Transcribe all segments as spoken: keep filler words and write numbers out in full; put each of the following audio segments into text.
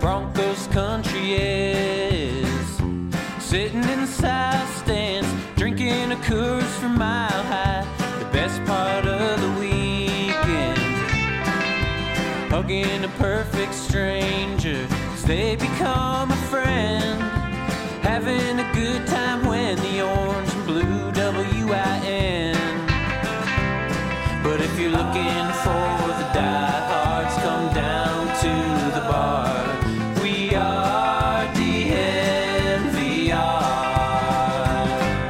Broncos country is. Sitting in the south stands, drinking a Coors from Mile High. The best part of the weekend, hugging a perfect stranger as they become a friend. Having a good time when the orange and blue W I N. But if you're looking for the diehards, come down to the bar. We are D N V R.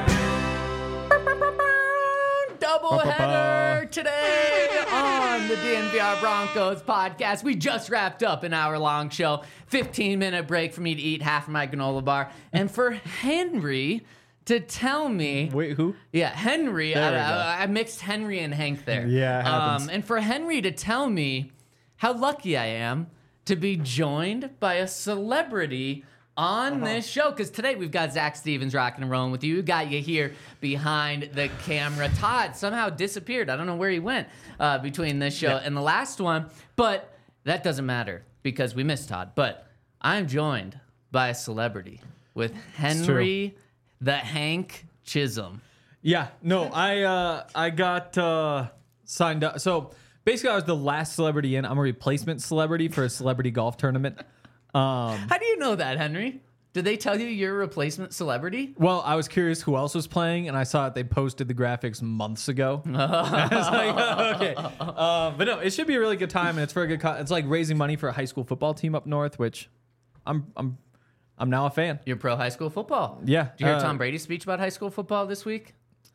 Doubleheader today on the D N V R Broncos podcast. We just wrapped up an hour-long show. fifteen minute break for me to eat half of my granola bar. And for Henry to tell me... Wait, who? Yeah, Henry. There I, we go. I, I mixed Henry and Hank there. Yeah, it happens. Um, and for Henry to tell me how lucky I am to be joined by a celebrity on Uh-huh. this show. Because today we've got Zach Stevens rocking and rolling with you. We got you here behind the camera. Todd somehow disappeared. I don't know where he went uh, between this show Yeah. and the last one. But that doesn't matter because we missed Todd. But I'm joined by a celebrity with Henry the Hank Chisholm. Yeah, no, I uh, I got uh, signed up. So basically, I was the last celebrity in. I'm a replacement celebrity for a celebrity golf tournament. Um, How do you know that, Henry? Did they tell you you're a replacement celebrity? well, I was curious who else was playing, and I saw that they posted the graphics months ago. I was like, oh, okay. Uh, but no, it should be a really good time, and it's for a good. Co- it's like raising money for a high school football team up north, which I'm I'm I'm now a fan. You're pro high school football. Yeah. Did you hear uh, Tom Brady's speech about high school football this week?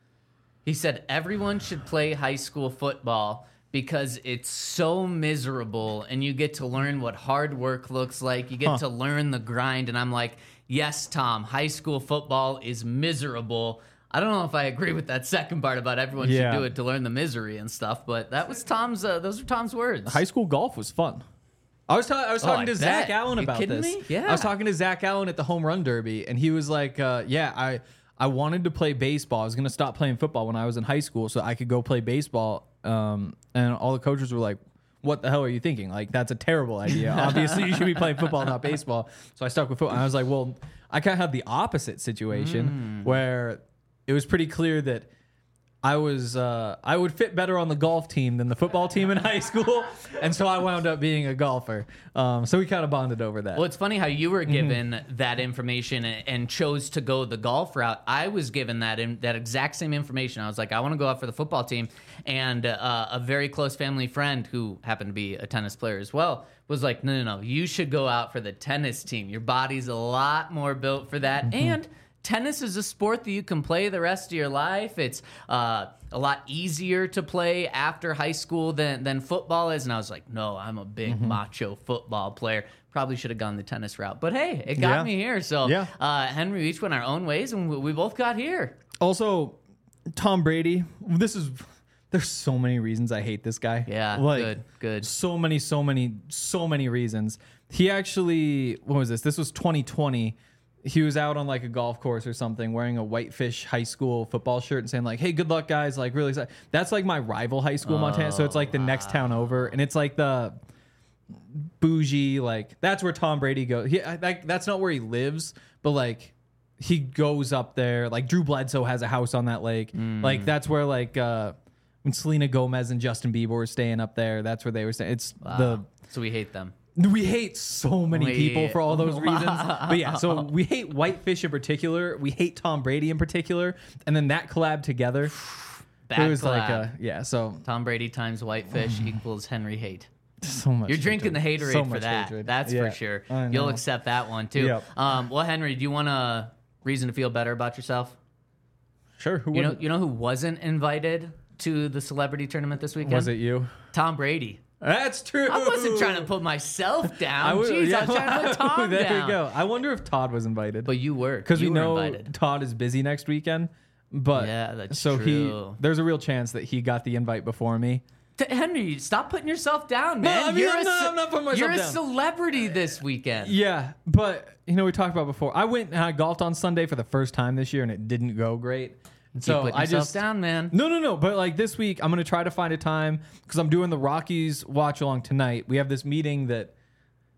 He said everyone should play high school football because it's so miserable and you get to learn what hard work looks like. You get Huh. to learn the grind. And I'm like, yes, Tom, high school football is miserable. I don't know if I agree with that second part about everyone Yeah. should do it to learn the misery and stuff, but that was Tom's, uh, those are Tom's words. High school golf was fun. I was, ta- I was Oh, talking I to bet. Zach Allen You about kidding this. me? Yeah. I was talking to Zach Allen at the home run derby, and he was like, uh, "Yeah, I I wanted to play baseball. I was gonna stop playing football when I was in high school, so I could go play baseball." Um, and all the coaches were like, "What the hell are you thinking? Like, that's a terrible idea. Obviously, you should be playing football, not baseball." So I stuck with football. And I was like, "Well, I kind of had the opposite situation where it was pretty clear that." I was uh, I would fit better on the golf team than the football team in high school, and so I wound up being a golfer. Um, so we kind of bonded over that. Well, it's funny how you were Mm-hmm. given that information and, and chose to go the golf route. I was given that in, that exact same information. I was like, I want to go out for the football team, and uh, a very close family friend who happened to be a tennis player as well was like, no, no, no, you should go out for the tennis team. Your body's a lot more built for that, Mm-hmm. and tennis is a sport that you can play the rest of your life. It's uh, a lot easier to play after high school than, than football is. And I was like, no, I'm a big Mm-hmm. macho football player. Probably should have gone the tennis route. But hey, it got Yeah. me here. So Yeah. uh, Henry, we each went our own ways, and we, we both got here. Also, Tom Brady. This is there's so many reasons I hate this guy. Yeah, like, good, good. So many, so many, so many reasons. He actually, what was this? This was twenty twenty. He was out on like a golf course or something wearing a Whitefish high school football shirt and saying like, "Hey, good luck, guys." Like really excited. That's like my rival high school, Montana. So it's like the next town over. And it's like the bougie, like that's where Tom Brady goes. He, I, that, that's not where he lives, but like he goes up there. Like Drew Bledsoe has a house on that lake. Like that's where like uh, when Selena Gomez and Justin Bieber were staying up there, that's where they were staying. It's Wow. So we hate them. the we hate so many We- people for all those Wow. reasons. But yeah, so we hate Whitefish in particular. We hate Tom Brady in particular, and then that collab together. Bad it was like collab. a, yeah. So Tom Brady times Whitefish equals Henry hate. so much. You're drinking hatred. the haterade So for much that. hatred. That's Yeah, for sure. I You'll know. accept that one too. Yep. Um, well, Henry, do you want a reason to feel better about yourself? Sure. Who You know, wouldn't? you know who wasn't invited to the celebrity tournament this weekend? Was it you? Tom Brady. That's true. I wasn't trying to put myself down. would- Jeez, yeah, I was trying to put Tom there down. you go. I wonder if Todd was invited. But you were, Because you we were know invited. Todd is busy next weekend. But Yeah, that's so true. he there's a real chance that he got the invite before me. T- Henry, stop putting yourself down, man. I mean, you're I'm a not- ce- I'm not putting myself You're a down. celebrity this weekend. Yeah, but you know we talked about before. I went and I golfed on Sunday for the first time this year, and it didn't go great. Keep So putting I yourself just down, man. no, no, no. But like this week, I'm gonna try to find a time because I'm doing the Rockies watch along tonight. We have this meeting that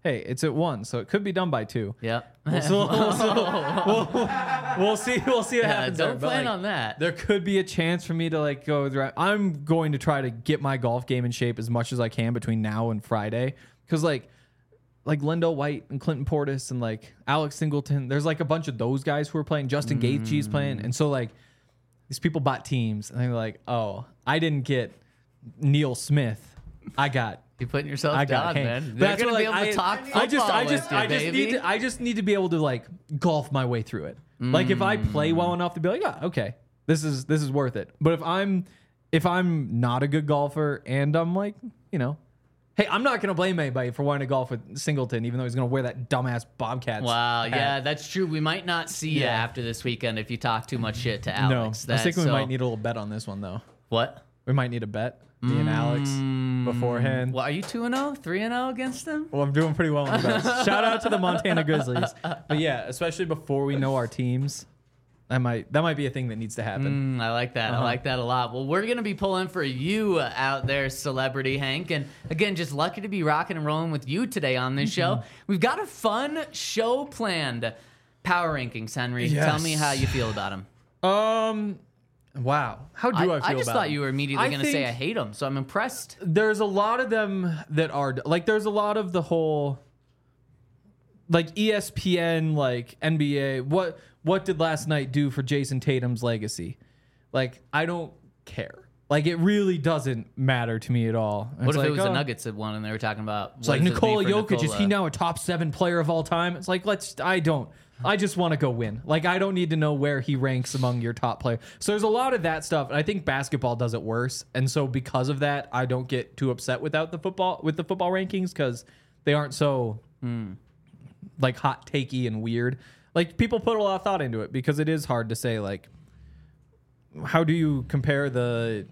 hey, it's at one, so it could be done by two. Yep. We'll, we'll, we'll, we'll, we'll see. We'll see what Yeah, happens. don't there. But, plan like, on that. There could be a chance for me to like go. Through, I'm going to try to get my golf game in shape as much as I can between now and Friday, because like. Like Lendo White and Clinton Portis and like Alex Singleton. There's like a bunch of those guys who are playing. Justin mm. Gaethje's playing. And so like these people bought teams and they're like, oh, I didn't get Neil Smith. I got. You're putting yourself I got down, Hank. man. They're That's going what, to like, be able to I, talk football I just, I just, with you, I just baby. need to, I just need to be able to like golf my way through it. Mm. Like if I play well enough to be like, oh, okay, this is, this is worth it. But if I'm, if I'm not a good golfer and I'm like, you know, hey, I'm not going to blame anybody for wanting to golf with Singleton, even though he's going to wear that dumbass Bobcats. Wow, hat. yeah, that's true. We might not see you Yeah. after this weekend if you talk too much shit to No, Alex. I think we so, might need a little bet on this one, though. What? We might need a bet, me and Alex, beforehand. Well, are you two and oh? three and oh against them? Well, I'm doing pretty well in the bets. Shout out to the Montana Grizzlies. But yeah, especially before we know our teams, that might that might be a thing that needs to happen. Mm, I like that. Uh-huh. I like that a lot. Well, we're going to be pulling for you out there, Celebrity Hank. And again, just lucky to be rocking and rolling with you today on this show. Mm-hmm. We've got a fun show planned. Power rankings, Henry. Yes. Tell me how you feel about them. Um, wow. How do I, feel I just about thought them? you were immediately I going to say think I hate them, so I'm impressed. There's a lot of them that are like there's a lot of the whole like E S P N, like N B A. What what did last night do for Jason Tatum's legacy? Like I don't care. Like it really doesn't matter to me at all. And What it's if like, it was oh, the Nuggets that won and they were talking about It's what like does this mean Nikola for Jokic, is he Nikola? now a top seven player of all time? It's like, let's, I don't, I just want to go win. Like, I don't need to know where he ranks among your top players. So there's a lot of that stuff. And I think basketball does it worse. And so because of that, I don't get too upset without the football, with the football rankings because they aren't so Mm. like hot takey and weird. Like people put a lot of thought into it because it is hard to say, like, how do you compare the,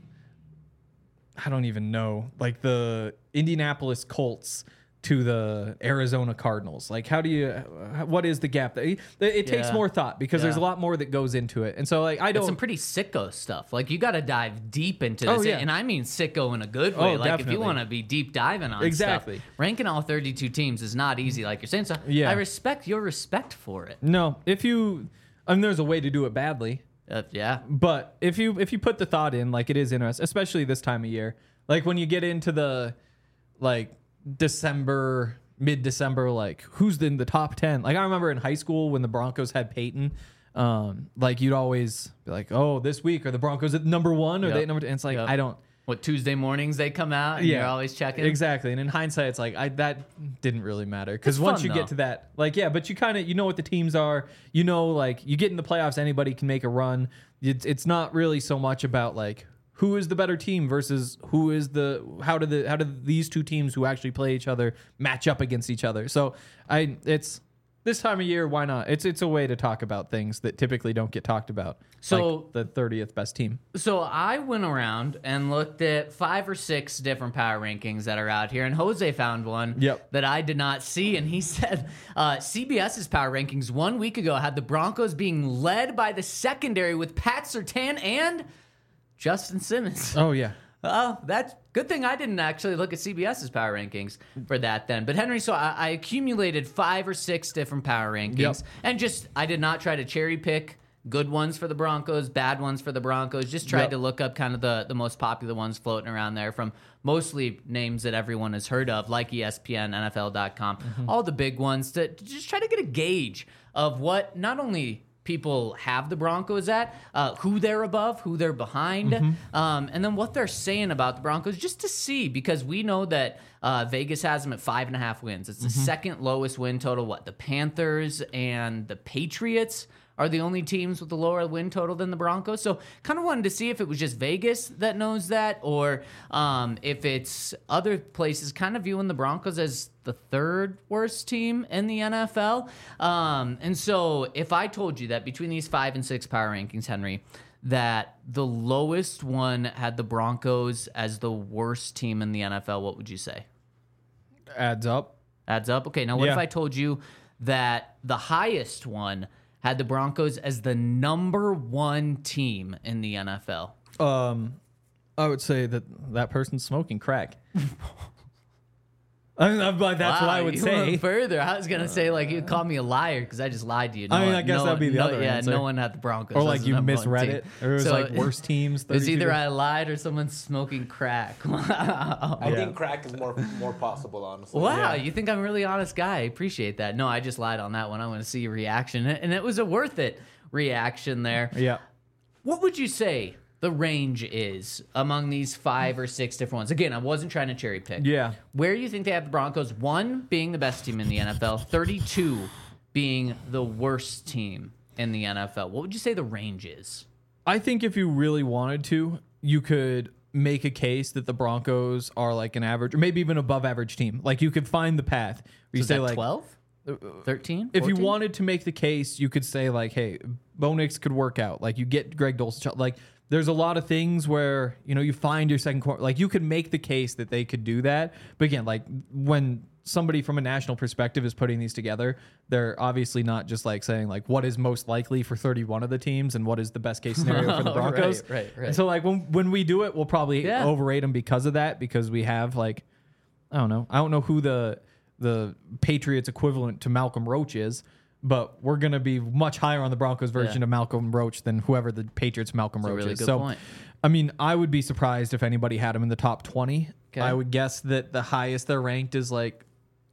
I don't even know, like the Indianapolis Colts to the Arizona Cardinals? Like, how do you, what is the gap? It, it takes Yeah. more thought because Yeah. there's a lot more that goes into it. And so, like, I It's don't. some pretty sicko stuff. Like you got to dive deep into Oh, this, yeah. and I mean sicko in a good way. Oh, like if you definitely. want to be deep diving on Exactly. stuff, ranking all thirty-two teams is not easy, like you're saying. So Yeah. I respect your respect for it. no, if you, I mean, there's a way to do it badly. Uh, yeah, But if you if you put the thought in, like it is interesting, especially this time of year. Like when you get into the like December, mid December, like who's in the top ten? Like I remember in high school when the Broncos had Peyton, um, like you'd always be like, oh, this week are the Broncos at number one or Yep. they at number two? And it's like Yep. I don't. what Tuesday mornings they come out, and you're always checking. Exactly. And in hindsight, it's like I that didn't really matter because It's once fun, you though. get to that, like yeah, but you kind of you know what the teams are. You know, like you get in the playoffs, anybody can make a run. It's it's not really so much about like who is the better team versus who is the how do the how do these two teams who actually play each other match up against each other. So I it's this time of year, why not? It's it's a way to talk about things that typically don't get talked about. So- like the thirtieth best team. So I went around and looked at five or six different power rankings that are out here, and Jose found one Yep. that I did not see, and he said uh, CBS's power rankings one week ago had the Broncos being led by the secondary with Pat Surtain and Justin Simmons. Oh yeah. Oh, that's good thing I didn't actually look at CBS's power rankings for that then. But Henry, so I, I accumulated five or six different power rankings, Yep. and just I did not try to cherry pick good ones for the Broncos, bad ones for the Broncos. Just tried Yep. to look up kind of the the most popular ones floating around there from mostly names that everyone has heard of, like E S P N, N F L dot com, Mm-hmm. all the big ones to, to just try to get a gauge of what not only people have the Broncos at, uh, who they're above, who they're behind, Mm-hmm. um, and then what they're saying about the Broncos, just to see, because we know that uh, Vegas has them at five and a half wins. It's the Mm-hmm. second lowest win total. What, the Panthers and the Patriots are the only teams with the lower win total than the Broncos. So kind of wanted to see if it was just Vegas that knows that, or um, if it's other places kind of viewing the Broncos as the third worst team in the N F L. Um, and so if I told you that between these five and six power rankings, Henry, that the lowest one had the Broncos as the worst team in the N F L, what would you say? Adds up. Adds up? Okay, now what Yeah. if I told you that the highest one had the Broncos as the number one team in the N F L? Um, I would say that that person's smoking crack. I mean, I'm like, that's Wow, what I would you say. went further. I was gonna say like you called me a liar because I just lied to you. No I mean, one- I guess no that'd be the no, other Yeah, answer. no one had the Broncos. Or as like the you number one misread team. it. Or it was So, like worst teams. It's thirty-two either games. I lied or someone's smoking crack. Wow. I Yeah. think crack is more more possible, honestly. Wow, Yeah. you think I'm a really honest guy. I appreciate that. No, I just lied on that one. I want to see your reaction. And it was a worth it reaction there. Yeah. What would you say the range is among these five or six different ones? Again, I wasn't trying to cherry pick. Yeah. Where do you think they have the Broncos? One being the best team in the N F L, thirty-two being the worst team in the N F L. What would you say the range is? I think if you really wanted to, you could make a case that the Broncos are like an average or maybe even above average team. Like you could find the path. Where you Is say that like twelve? thirteen? if you fourteen? wanted to make the case, you could say like, hey, Bo Nix could work out. Like you get Greg Dulcich. Like there's a lot of things where, you know, you find your second quarter. Like you could make the case that they could do that. But again, like when somebody from a national perspective is putting these together, they're obviously not just like saying like what is most likely for thirty-one of the teams and what is the best case scenario for the Broncos. Right, right, right. And so like when when we do it, we'll probably Yeah. overrate them because of that, because we have like, I don't know. I don't know who the the Patriots equivalent to Malcolm Roach is, but we're going to be much higher on the Broncos version Yeah. of Malcolm Roach than whoever the Patriots Malcolm That's a Roach really is. good So, point. I mean, I would be surprised if anybody had him in the top twenty. Okay. I would guess that the highest they're ranked is like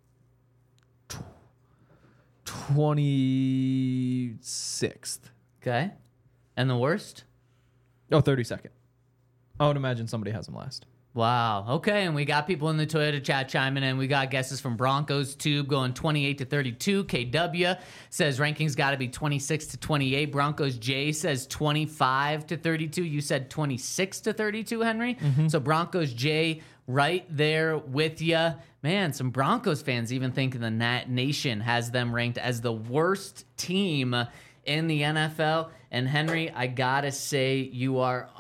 twenty-sixth. Okay. And the worst? Oh, thirty-second. I would imagine somebody has him last. Wow. Okay. And we got people in the Toyota chat chiming in. We got guesses from Broncos Tube going twenty-eight to thirty-two. K W says rankings got to be twenty-six to twenty-eight. Broncos J says twenty-five to thirty-two. You said twenty-six to thirty-two, Henry. Mm-hmm. So Broncos J right there with you. Man, some Broncos fans even thinking the Nat Nation has them ranked as the worst team in the N F L. And Henry, I gotta say, you are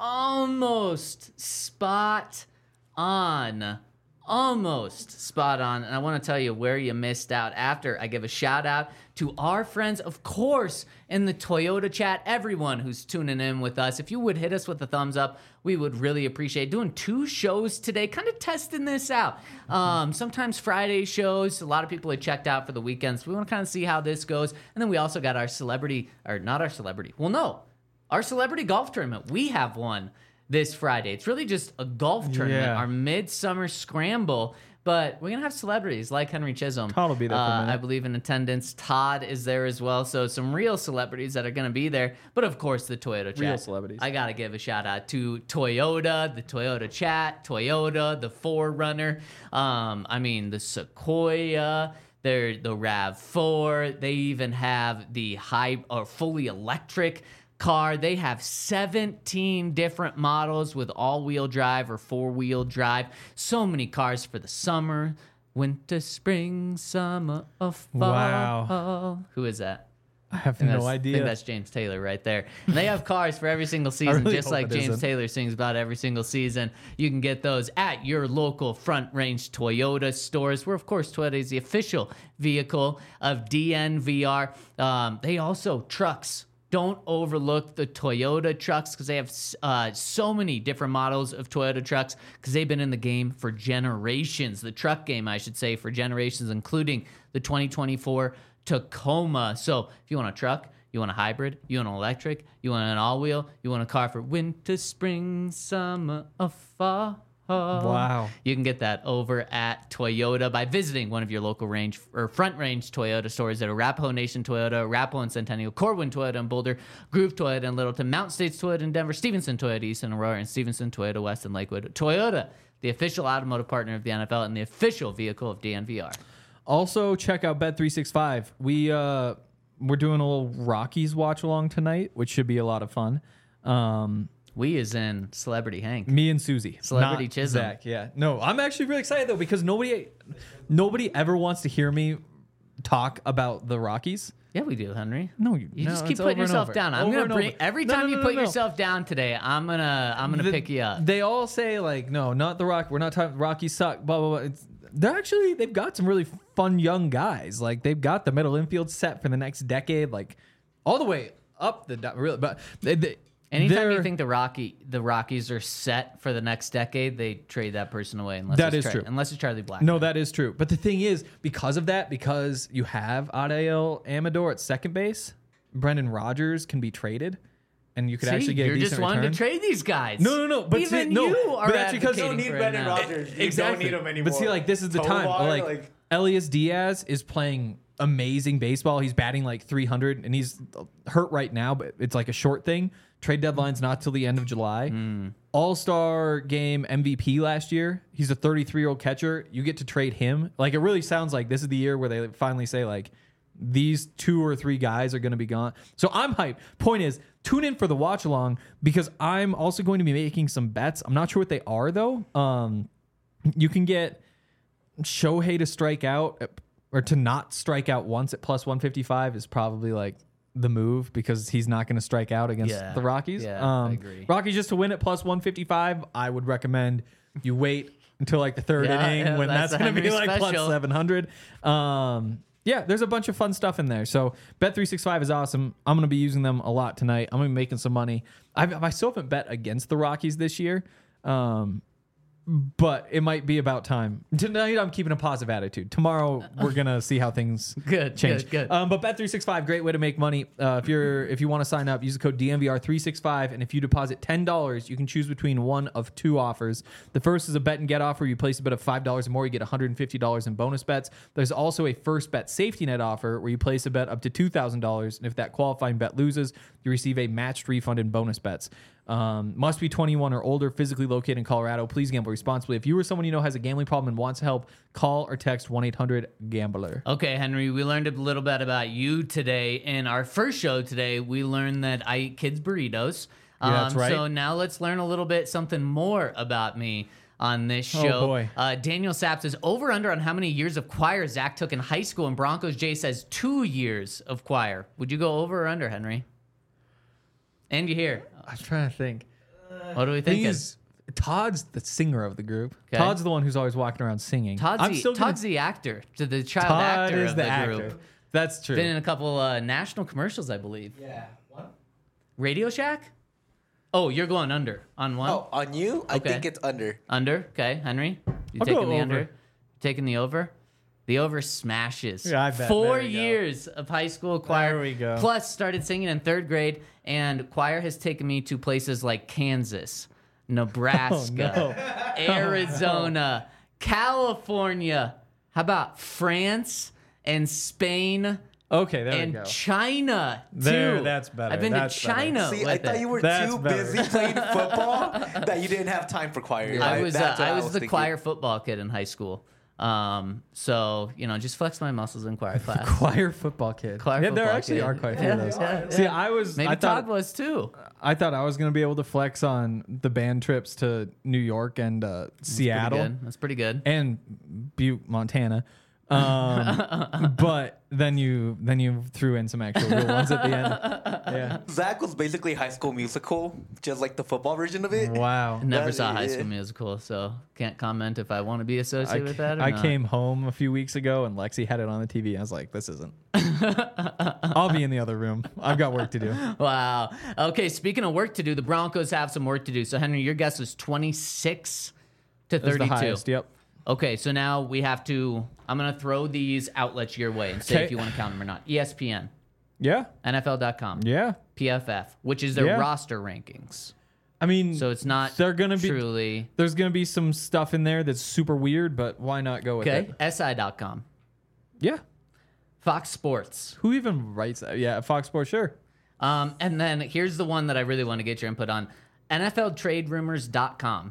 almost spot on. Almost spot on. And I want to tell you where you missed out after I give a shout out to our friends, of course, in the Toyota chat. Everyone who's tuning in with us, if you would hit us with a thumbs up, we would really appreciate doing two shows today, kind of testing this out. Um, sometimes Friday shows, a lot of people had checked out for the weekends. We want to kind of see how this goes. And then we also got our celebrity, or not our celebrity, well, no, our celebrity golf tournament. We have one this Friday. It's really just a golf tournament, Yeah. our midsummer scramble. But we're going to have celebrities like Henry Chisholm. Todd will be there for a uh, minute. I believe in attendance. Todd is there as well. So some real celebrities that are going to be there. But of course, the Toyota chat. Real celebrities. I got to give a shout out to Toyota, the Toyota chat, Toyota, the four runner. Um, I mean, the Sequoia. They're the RAV four. They even have the high or fully electric car. They have seventeen different models with all-wheel drive or four-wheel drive. So many cars for the summer, winter, spring, summer, or fall. Wow. Who is that? I have I think no that's- I idea. think that's James Taylor right there. And they have cars for every single season, really just hope like it James isn't. Taylor sings about every single season. You can get those at your local Front Range Toyota stores, where, of course, Toyota is the official vehicle of D N V R. Um, they also, trucks. Don't overlook the Toyota trucks because they have uh, so many different models of Toyota trucks because they've been in the game for generations. The truck game, I should say, for generations, including the twenty twenty-four Tacoma. So if you want a truck, you want a hybrid, you want an electric, you want an all-wheel, you want a car for winter, spring, summer, or fall. Wow. You can get that over at Toyota by visiting one of your local range or Front Range Toyota stores that are Arapahoe Nation Toyota, Arapahoe and Centennial, Corwin Toyota in Boulder, Groove Toyota in Littleton, Mountain States Toyota in Denver, Stevenson Toyota East in Aurora, and Stevenson Toyota West in Lakewood. Toyota, the official automotive partner of the N F L and the official vehicle of D N V R. Also, check out Bet three sixty-five. We uh, we're doing a little Rockies watch along tonight, which should be a lot of fun. Um, We is in Celebrity Hank. me and Susie, Celebrity not Chisholm. Zach. Yeah, no, I'm actually really excited though because nobody, nobody ever wants to hear me talk about the Rockies. Yeah, we do, Henry. No, you, You no, just keep it's putting over and yourself over. down. I'm Over gonna and bring over. every No, time no, you no, put no, no. yourself down today. I'm gonna I'm gonna The- pick you up. They all say like, no, not the Rock. We're not talking. Rockies suck. Blah blah blah. It's, they're actually they've got some really fun young guys. Like they've got the middle infield set for the next decade. Like all the way up the really. But they, they, Anytime They're- you think the Rocky the Rockies are set for the next decade, they trade that person away. Unless That it's is Char- true. Unless it's Charlie Black. No, that is true. But the thing is, because of that, because you have Adael Amador at second base, Brendan Rodgers can be traded, and you could See, actually get you're a just decent wanting return. to trade these guys. No, no, no, but see- even no, you are but that's because you advocating don't need for it Brendan now. Rodgers. You Exactly. don't need him anymore. But see, like this is the time. Tovar, Like, like- Elias Diaz is playing amazing baseball. He's batting like three hundred, and he's hurt right now, but it's like a short thing. Trade deadline's not till the end of July. Hmm. All-Star game M V P last year. He's a thirty-three-year-old catcher. You get to trade him. Like it really sounds like this is the year where they finally say like these two or three guys are going to be gone. So I'm hyped. Point is, tune in for the watch along because I'm also going to be making some bets. I'm not sure what they are though. Um, you can get Shohei to strike out or to not strike out once at plus one fifty-five is probably like the move because he's not going to strike out against Yeah. the Rockies. Yeah, I um, agree. Rockies just to win at plus one fifty-five. I would recommend you wait until like the third Yeah, inning yeah, when that's that's, the going to be Henry like plus special. seven hundred. Um, yeah, there's a bunch of fun stuff in there. So Bet three sixty-five is awesome. I'm going to be using them a lot tonight. I'm going to be making some money. I've, I still haven't bet against the Rockies this year. Um, but it might be about time. Tonight, I'm keeping a positive attitude. Tomorrow, we're gonna see how things Good, change. good, good. Um, but Bet three sixty-five, great way to make money. Uh, if you're if you want to sign up, use the code D M V R three sixty-five, and if you deposit ten dollars, you can choose between one of two offers. The first is a bet and get offer. You place a bet of five dollars or more, you get one hundred fifty dollars in bonus bets. There's also a first bet safety net offer where you place a bet up to two thousand dollars, and if that qualifying bet loses, you receive a matched refund in bonus bets. Um, must be twenty-one or older, physically located in Colorado. Please gamble responsibly. If you or someone you know has a gambling problem and wants help, call or text one eight hundred gambler. Okay, Henry, we learned a little bit about you today. In our first show today, we learned that I eat kids' burritos. Um, Yeah, that's right. So now let's learn a little bit something more about me on this Oh, show. boy. Uh, Daniel Sapp says, over under on how many years of choir Zach took in high school, and Broncos Jay says two years of choir. Would you go over or under, Henry? And you hear. I was trying to think. What do we I think think? is Todd's the singer of the group. Okay. Todd's the one who's always walking around singing. Todd's, I'm the, still gonna- Todd's the actor, to the child Todd actor is of the, the, actor. group. That's true. Been in a couple uh, national commercials, I believe. Yeah. What? Radio Shack? Oh, you're going under on one? Oh, on you? I Okay. think it's under. Under. Okay, Henry. You I'll taking go the over. under? Taking the over? The over smashes. Yeah, I bet. Four There we go. years of high school choir. There we go. Plus, started singing in third grade, and choir has taken me to places like Kansas, Nebraska, Oh, Arizona, California. How about France and Spain? Okay, there and we go. China too. There, that's better. I've been That's to better. China. See, with I thought it. you were That's too better. busy playing football that you didn't have time for choir. I was uh, That's what I was, the thinking. choir football kid in high school. Um, so you know, just flex my muscles in choir class. Choir football kid. Choir yeah, there football actually kid. are quite a few Yeah, of those. yeah, See, yeah. I was Maybe I thought Todd was too. I thought I was gonna be able to flex on the band trips to New York and uh, Seattle Pretty good. That's pretty good. and Butte, Montana. Um, but then you then you threw in some actual real ones at the end. Yeah. Zach was basically High School Musical, just like the football version of it. Wow. Never That- saw High yeah. School Musical, so can't comment if I want to be associated with that or I not. came home a few weeks ago and Lexi had it on the T V. I was like, this isn't. I'll be in the other room. I've got work to do. Wow. Okay, speaking of work to do, the Broncos have some work to do. So Henry, your guess was twenty-six to That's the thirty-two. highest. Yep. Okay, so now we have to. I'm gonna throw these outlets your way and say Okay. if you want to count them or not. E S P N, Yeah. N F L dot com, Yeah. P F F, which is their Yeah. roster rankings. I mean, So it's not. They're gonna be- truly there's gonna be some stuff in there that's super weird, but why not go with okay. it? S I dot com, Yeah. Fox Sports, Who even writes that? Yeah, Fox Sports, sure. um, and then here's the one that I really want to get your input on: N F L Trade Rumors dot com.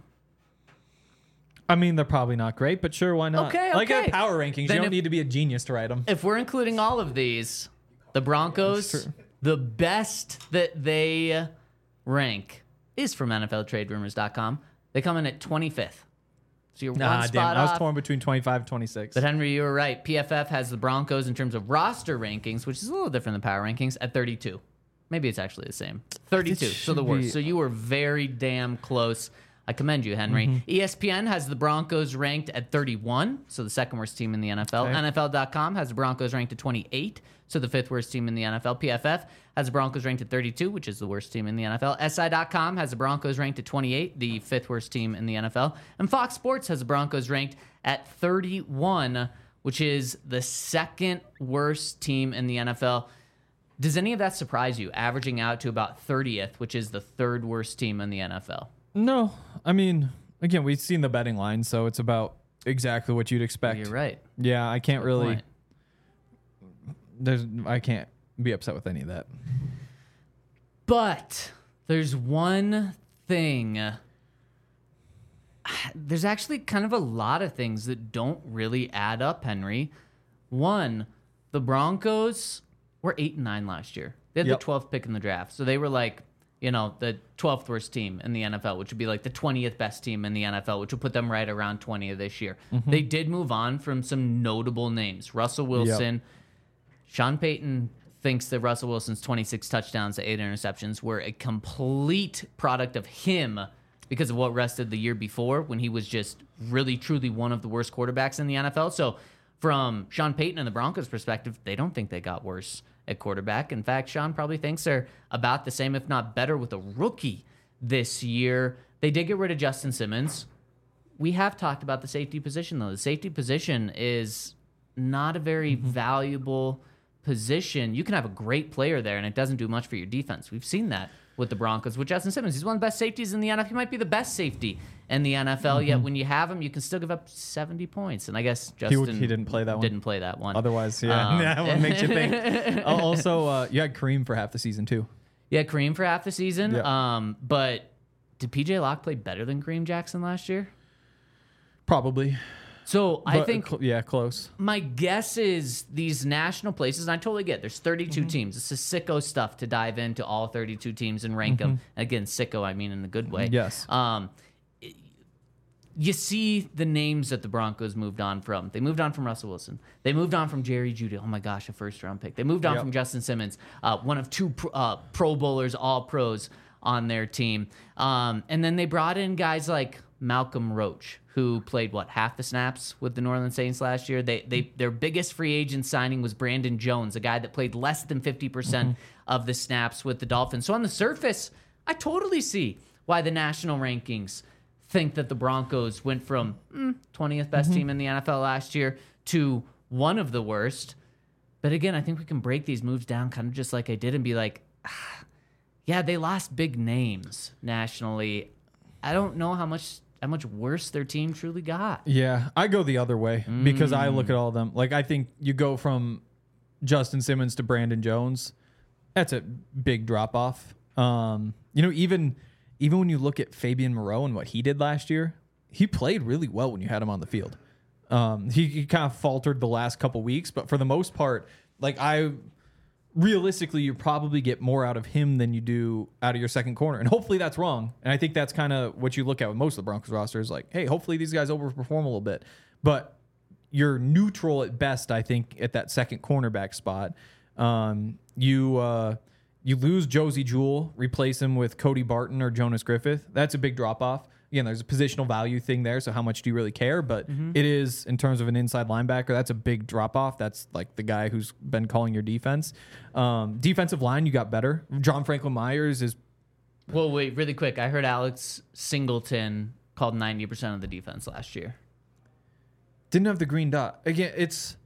I mean, they're probably not great, but sure, why not? Okay, Like okay. at power rankings, Then you don't if- need to be a genius to write them. If we're including all of these, the That's Broncos, true. the best that they rank is from N F L Trade Rumors dot com. They come in at twenty-fifth. So you're Nah, one damn. spot I was off. torn between twenty-five and twenty-six. But Henry, you were right. P F F has the Broncos in terms of roster rankings, which is a little different than power rankings, at thirty-two. Maybe it's actually the same. thirty-two. So the should worst. be- So you were very damn close. I commend you, Henry. E S P N has the Broncos ranked at thirty-one, so the second worst team in the N F L. Okay. N F L dot com has the Broncos ranked at twenty-eight, so the fifth worst team in the N F L. P F F has the Broncos ranked at thirty-two, which is the worst team in the N F L. S I dot com has the Broncos ranked at twenty-eight, the fifth worst team in the N F L. And Fox Sports has the Broncos ranked at thirty-one, which is the second worst team in the N F L. Does any of that surprise you, averaging out to about thirtieth, which is the third worst team in the N F L? No, I mean, again, we've seen the betting line, so it's about exactly what you'd expect. You're right. Yeah, I can't Good really. point. There's, I can't be upset with any of that. But there's one thing. There's actually kind of a lot of things that don't really add up, Henry. One, the Broncos were eight and nine last year. They had Yep. the twelfth pick in the draft, so they were like, you know, the twelfth worst team in the N F L, which would be like the twentieth best team in the N F L, which would put them right around twentieth this year. Mm-hmm. They did move on from some notable names. Russell Wilson, Sean Payton thinks that Russell Wilson's twenty-six touchdowns to eight interceptions were a complete product of him because of what rested the year before when he was just really, truly one of the worst quarterbacks in the N F L. So from Sean Payton and the Broncos' perspective, they don't think they got worse at quarterback. In fact, Sean probably thinks they're about the same, if not better, with a rookie this year. They did get rid of Justin Simmons. We have talked about the safety position, though. The safety position is not a very valuable position. You can have a great player there, and it doesn't do much for your defense. We've seen that with the Broncos with Justin Simmons. He's one of the best safeties in the N F L. He might be the best safety in the N F L, yet when you have him, you can still give up seventy points. And I guess Justin He, he didn't play that one. Didn't play that one. Otherwise, yeah, Um, that one makes you think. Oh, also, uh, you had Kareem for half the season too. Yeah, Kareem for half the season. Yeah. Um, but did P J Locke play better than Kareem Jackson last year? Probably. So I But, think cl- yeah, close. my guess is these national places, and I totally get it, there's thirty-two Mm-hmm. teams. It's a sicko stuff to dive into all thirty-two teams and rank them. Again, sicko, I mean in a good way. Mm-hmm. Yes. Um, it- you see the names that the Broncos moved on from. They moved on from Russell Wilson. They moved on from Jerry Jeudy. Oh my gosh, a first round pick. They moved on Yep. from Justin Simmons, uh, one of two pro, uh, Pro Bowlers, all pros on their team. Um, and then they brought in guys like Malcolm Roach, who played what half the snaps with the New Orleans Saints last year. They they their biggest free agent signing was Brandon Jones, a guy that played less than fifty percent of the snaps with the Dolphins. So on the surface, I totally see why the national rankings think that the Broncos went from mm, twentieth best team in the N F L last year to one of the worst. But again, I think we can break these moves down kind of just like I did and be like, ah, yeah, they lost big names nationally. I don't know how much how much worse their team truly got. Yeah, I go the other way because I look at all of them. Like, I think you go from Justin Simmons to Brandon Jones. That's a big drop off. Um, you know, even even when you look at Fabian Moreau and what he did last year, he played really well when you had him on the field. Um, he, he kind of faltered the last couple weeks, but for the most part, like I realistically, you probably get more out of him than you do out of your second corner. And hopefully that's wrong. And I think that's kind of what you look at with most of the Broncos rosters. Like, hey, hopefully these guys overperform a little bit. But you're neutral at best, I think, at that second cornerback spot. Um, you uh, you lose Josie Jewell, replace him with Cody Barton or Jonas Griffith. That's a big drop-off. Again, there's a positional value thing there, so how much do you really care? But it is, in terms of an inside linebacker, that's a big drop-off. That's like the guy who's been calling your defense. Um, defensive line, you got better. John Franklin Myers is... Well, wait, really quick. I heard Alex Singleton called ninety percent of the defense last year. Didn't have the green dot. Again, it's...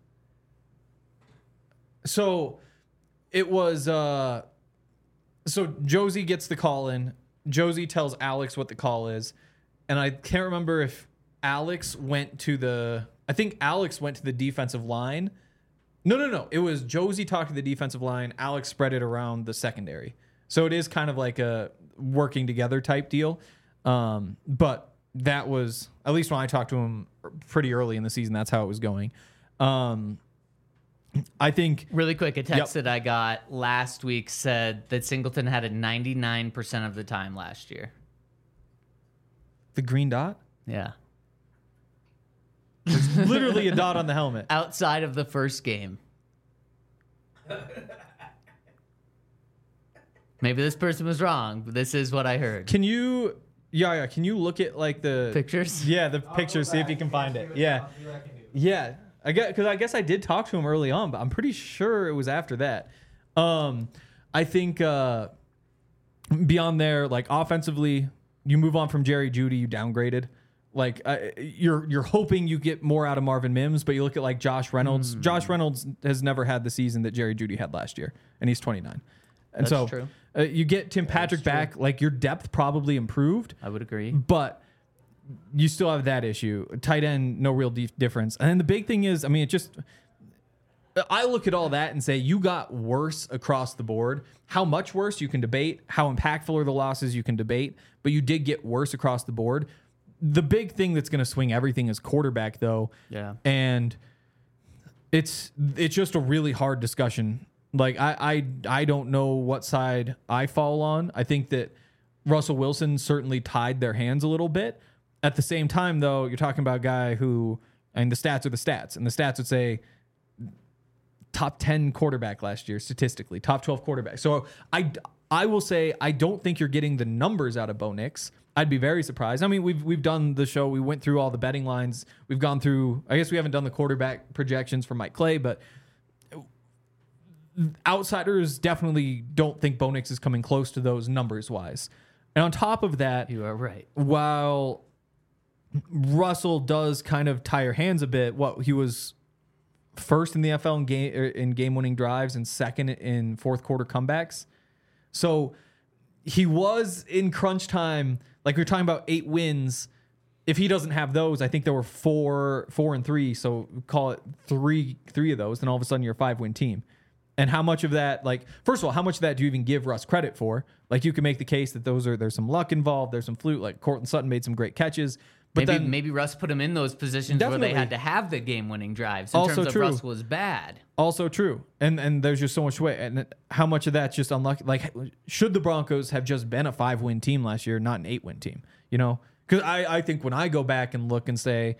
So, it was... Uh, so, Josie gets the call in. Josie tells Alex what the call is. And I can't remember if Alex went to the... I think Alex went to the defensive line. No, no, no. It was Josie talked to the defensive line. Alex spread it around the secondary. So it is kind of like a working together type deal. Um, but that was, at least when I talked to him pretty early in the season, that's how it was going. Um, I think... Really quick, a text Yep. that I got last week said that Singleton had it ninety-nine percent of the time last year. The green dot? Yeah. Literally a dot on the helmet. Outside of the first game. Maybe this person was wrong, but this is what I heard. Can you Yeah, yeah. Can you look at like the Pictures? Yeah, the pictures. See if you can find it. Yeah, yeah. I guess because I guess I did talk to him early on, but I'm pretty sure it was after that. Um, I think uh, beyond there, like offensively, you move on from Jerry Jeudy. You downgraded. Like uh, you're you're hoping you get more out of Marvin Mims, but you look at like Josh Reynolds. Mm. Josh Reynolds has never had the season that Jerry Jeudy had last year, and he's twenty-nine. And That's so true. Uh, you get Tim Patrick back. Like your depth probably improved. I would agree. But you still have that issue. Tight end, no real dif- difference. And then the big thing is, I mean, it just, I look at all that and say, you got worse across the board. How much worse you can debate. How impactful are the losses you can debate. But you did get worse across the board. The big thing that's going to swing everything is quarterback, though. Yeah. And it's it's just a really hard discussion. Like, I, I, I don't know what side I fall on. I think that Russell Wilson certainly tied their hands a little bit. At the same time, though, you're talking about a guy who, and the stats are the stats, and the stats would say top ten quarterback last year statistically, top twelve quarterback. So I, I will say I don't think you're getting the numbers out of Bo Nix. I'd be very surprised. I mean, we've we've done the show. We went through all the betting lines. We've gone through. I guess we haven't done the quarterback projections for Mike Clay, but outsiders definitely don't think Bo Nix is coming close to those numbers wise. And on top of that, You are right. while Russell does kind of tie your hands a bit, what he was first in the N F L in game in game winning drives and second in fourth quarter comebacks. So he was in crunch time, like we we're talking about eight wins. If he doesn't have those, I think there were four, four and three. So call it three, three of those. Then all of a sudden you're a five win team. And how much of that, like, first of all, how much of that do you even give Russ credit for? Like, you can make the case that those are, there's some luck involved. There's some fluke. Like Cortland Sutton made some great catches. But maybe then, maybe Russ put him in those positions Definitely. where they had to have the game-winning drives. In Also terms of true. Russ was bad. Also true. And and there's just so much way. And how much of that's just unlucky? Like, should the Broncos have just been a five-win team last year, not an eight-win team? You know? Because I, I think when I go back and look and say,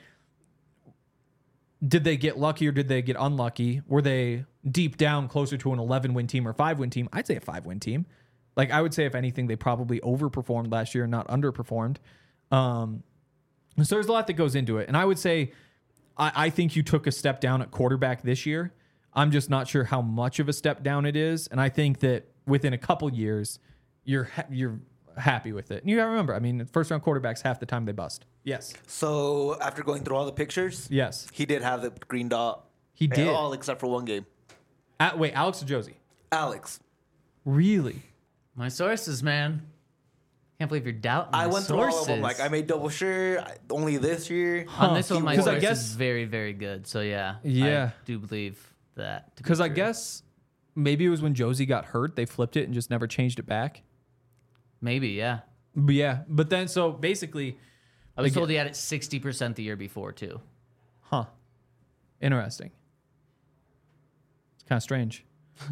did they get lucky or did they get unlucky? Were they deep down closer to an eleven-win team or five-win team? I'd say a five-win team. Like, I would say, if anything, they probably overperformed last year, not underperformed. Um, so there's a lot that goes into it. And I would say, I, I think you took a step down at quarterback this year. I'm just not sure how much of a step down it is. And I think that within a couple years, you're ha- you're happy with it. And you got to remember, I mean, first-round quarterbacks, half the time they bust. Yes. So after going through all the pictures, Yes. he did have the green dot. He did. All except for one game. Uh, wait, Alex or Josie? Alex. Really? My sources, man. Can't believe you're doubting my I went sources. through all of them. Like, I made double sure I- only this year. On this one, my Because I source guess- is very, very good. So, yeah. Yeah. I do believe that. to be Because I true. guess maybe it was when Josie got hurt, they flipped it and just never changed it back. Maybe, yeah. But yeah, but then so basically, I was Like- told he had it sixty percent the year before, too. huh? Interesting. It's kind of strange.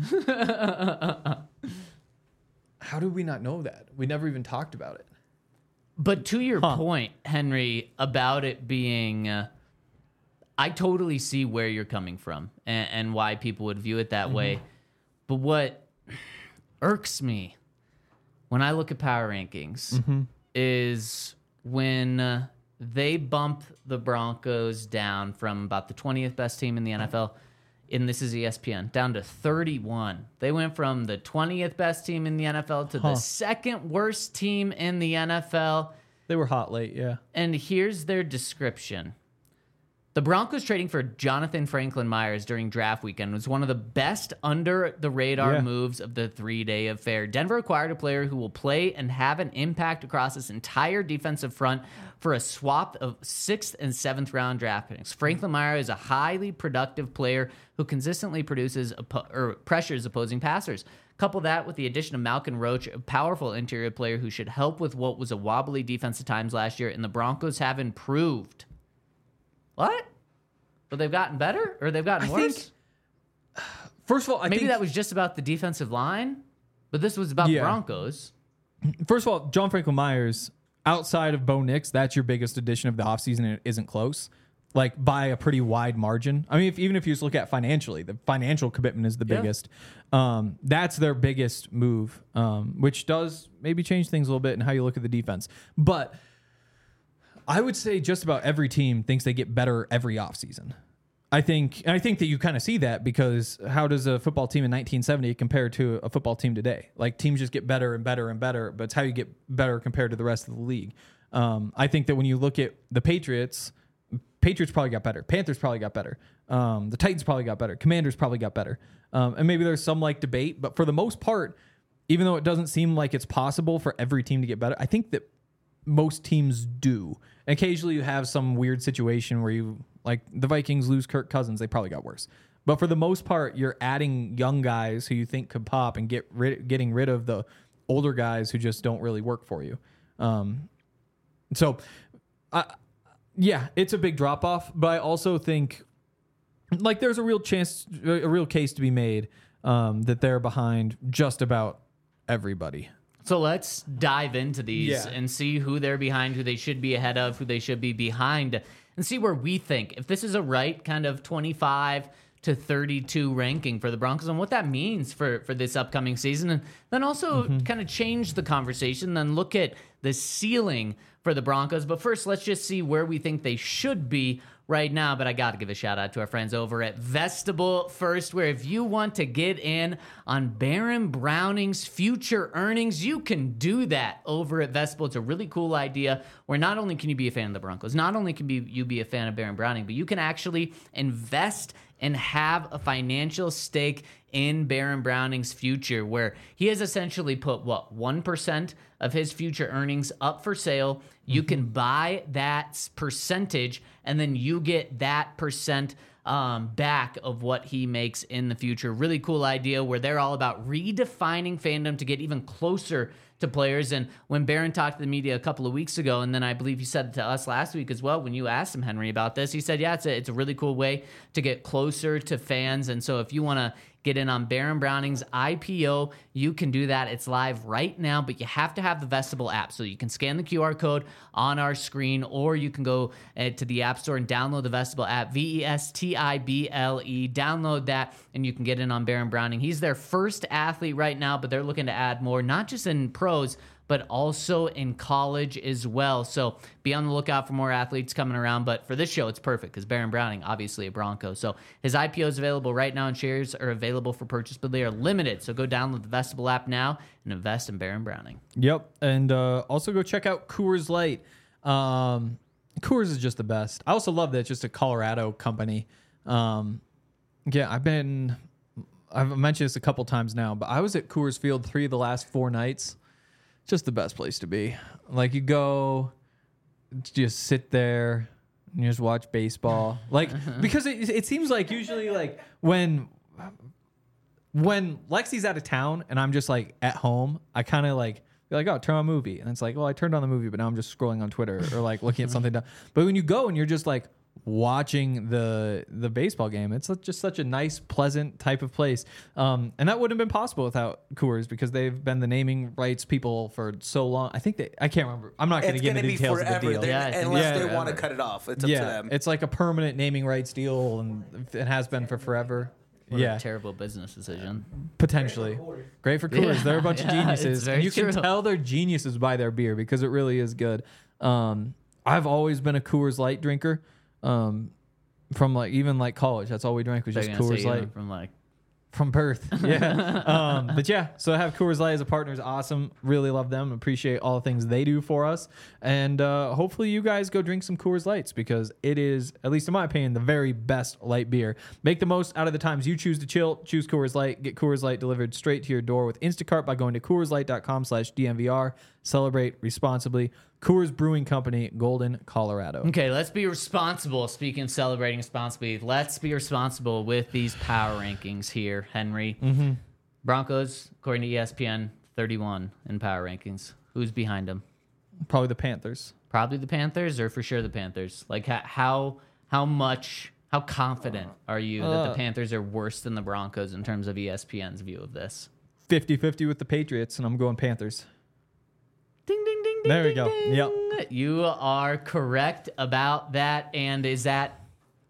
How did we not know that? We never even talked about it. But to your Huh. point, Henry, about it being, uh, I totally see where you're coming from and, and why people would view it that Mm-hmm. way. But what irks me when I look at power rankings Mm-hmm. is when uh, they bump the Broncos down from about the twentieth best team in the N F L, and this is E S P N, down to thirty-one. They went from the twentieth best team in the N F L to Huh. the second worst team in the N F L. They were hot late, yeah. And here's their description. The Broncos trading for Jonathan Franklin Myers during draft weekend was one of the best under the radar Yeah. moves of the three-day affair. Denver acquired a player who will play and have an impact across this entire defensive front for a swap of sixth and seventh round draft picks. Franklin Myers is a highly productive player who consistently produces oppo- or pressures opposing passers. Couple that with the addition of Malcolm Roach, a powerful interior player who should help with what was a wobbly defense at times last year, and the Broncos have improved. What? But they've gotten better, or they've gotten I worse? think- First of all, I Maybe think that was just about the defensive line, but this was about the Yeah. Broncos. First of all, John Franklin Myers, outside of Bo Nix, that's your biggest addition of the offseason, and it isn't close. like by a pretty wide margin. I mean, if, even if you just look at financially, the financial commitment is the Yeah. biggest. Um, that's their biggest move, um, which does maybe change things a little bit in how you look at the defense. But I would say just about every team thinks they get better every offseason. I think, and I think that you kind of see that because how does a football team in nineteen seventy compare to a football team today? Like teams just get better and better and better, but it's how you get better compared to the rest of the league. Um, I think that when you look at the Patriots, Patriots probably got better. Panthers probably got better. Um, the Titans probably got better. Commanders probably got better. Um, and maybe there's some like debate, but for the most part, even though it doesn't seem like it's possible for every team to get better, I think that most teams do. Occasionally you have some weird situation where you, like the Vikings lose Kirk Cousins, they probably got worse. But for the most part, you're adding young guys who you think could pop and get rid, getting rid of the older guys who just don't really work for you. Um, so, I, yeah, it's a big drop off, but I also think like there's a real chance, a real case to be made um, that they're behind just about everybody. So let's dive into these Yeah. and see who they're behind, who they should be ahead of, who they should be behind, and see where we think if this is a right kind of twenty-five to thirty-two ranking for the Broncos and what that means for, for this upcoming season. And then also Mm-hmm. kind of change the conversation, then look at the ceiling for the Broncos. But first, let's just see where we think they should be right now. But I got to give a shout out to our friends over at Vestibule First, where if you want to get in on Baron Browning's future earnings, you can do that over at Vestibule. It's a really cool idea where not only can you be a fan of the Broncos, not only can be, you be a fan of Baron Browning, but you can actually invest and have a financial stake in Baron Browning's future, where he has essentially put, what, one percent of his future earnings up for sale. You can buy that percentage, and then you get that percent um, back of what he makes in the future. Really cool idea where they're all about redefining fandom to get even closer to players. And when Baron talked to the media a couple of weeks ago, and then I believe he said it to us last week as well, when you asked him, Henry, about this, he said, yeah, it's a, it's a really cool way to get closer to fans. And so if you want to get in on Baron Browning's I P O, you can do that. It's live right now, but you have to have the Vestibule app. So you can scan the Q R code on our screen, or you can go uh, to the App Store and download the Vestibule app, V E S T I B L E. Download that, and you can get in on Baron Browning. He's their first athlete right now, but they're looking to add more, not just in pros, but also in college as well. So be on the lookout for more athletes coming around. But for this show, it's perfect because Baron Browning, obviously a Bronco. So his I P O is available right now, and shares are available for purchase, but they are limited. So go download the Vestibule app now and invest in Baron Browning. Yep. And uh, also go check out Coors Light. Um, Coors is just the best. I also love that it's just a Colorado company. Um, yeah, I've been, I've mentioned this a couple times now, but I was at Coors Field three of the last four nights. Just the best place to be. Like you go, just sit there and you just watch baseball. Like, because it, it seems like usually like when, when Lexi's out of town and I'm just like at home, I kind of like, be like, oh, turn on a movie. And it's like, well, I turned on the movie, but now I'm just scrolling on Twitter or like looking at something. Down. But when you go and you're just like watching the the baseball game, it's just such a nice, pleasant type of place. Um, and that wouldn't have been possible without Coors because they've been the naming rights people for so long. I think they, I can't remember. I'm not going to It's get going into to the be details of forever, the deal. They're- Yeah, I think unless it's they forever. want to cut it off. It's up to Yeah, them. it's like a permanent naming rights deal, and it has been for forever. What yeah, a terrible business decision. potentially great for Coors. Yeah, They're a bunch yeah, of geniuses, it's very and you can true. tell they're geniuses by their beer because it really is good. Um, I've always been a Coors Light drinker, um, from like even like college. That's all we drank was They're just gonna say Coors you Light went from like from Perth. Yeah, um, but yeah, so to have Coors Light as a partner is awesome. Really love them. Appreciate all the things they do for us, and uh, hopefully you guys go drink some Coors Lights because it is, at least in my opinion, the very best light beer. Make the most out of the times you choose to chill. Choose Coors Light. Get Coors Light delivered straight to your door with Instacart by going to Coors Light dot com slash D M V R. Celebrate responsibly. Coors Brewing Company, Golden, Colorado. Okay, let's be responsible. Speaking of celebrating responsibly, let's be responsible with these power rankings here, Henry. Mm-hmm. Broncos, according to E S P N, thirty-one in power rankings. Who's behind them? Probably the Panthers. Probably the Panthers, or for sure the Panthers. Like how how, how much, how confident are you that the Uh. Panthers are worse than the Broncos in terms of E S P N's view of this? fifty-fifty with the Patriots, and I'm going Panthers. Ding, ding, ding, ding, There we ding, go. ding. Yep. You are correct about that. And is that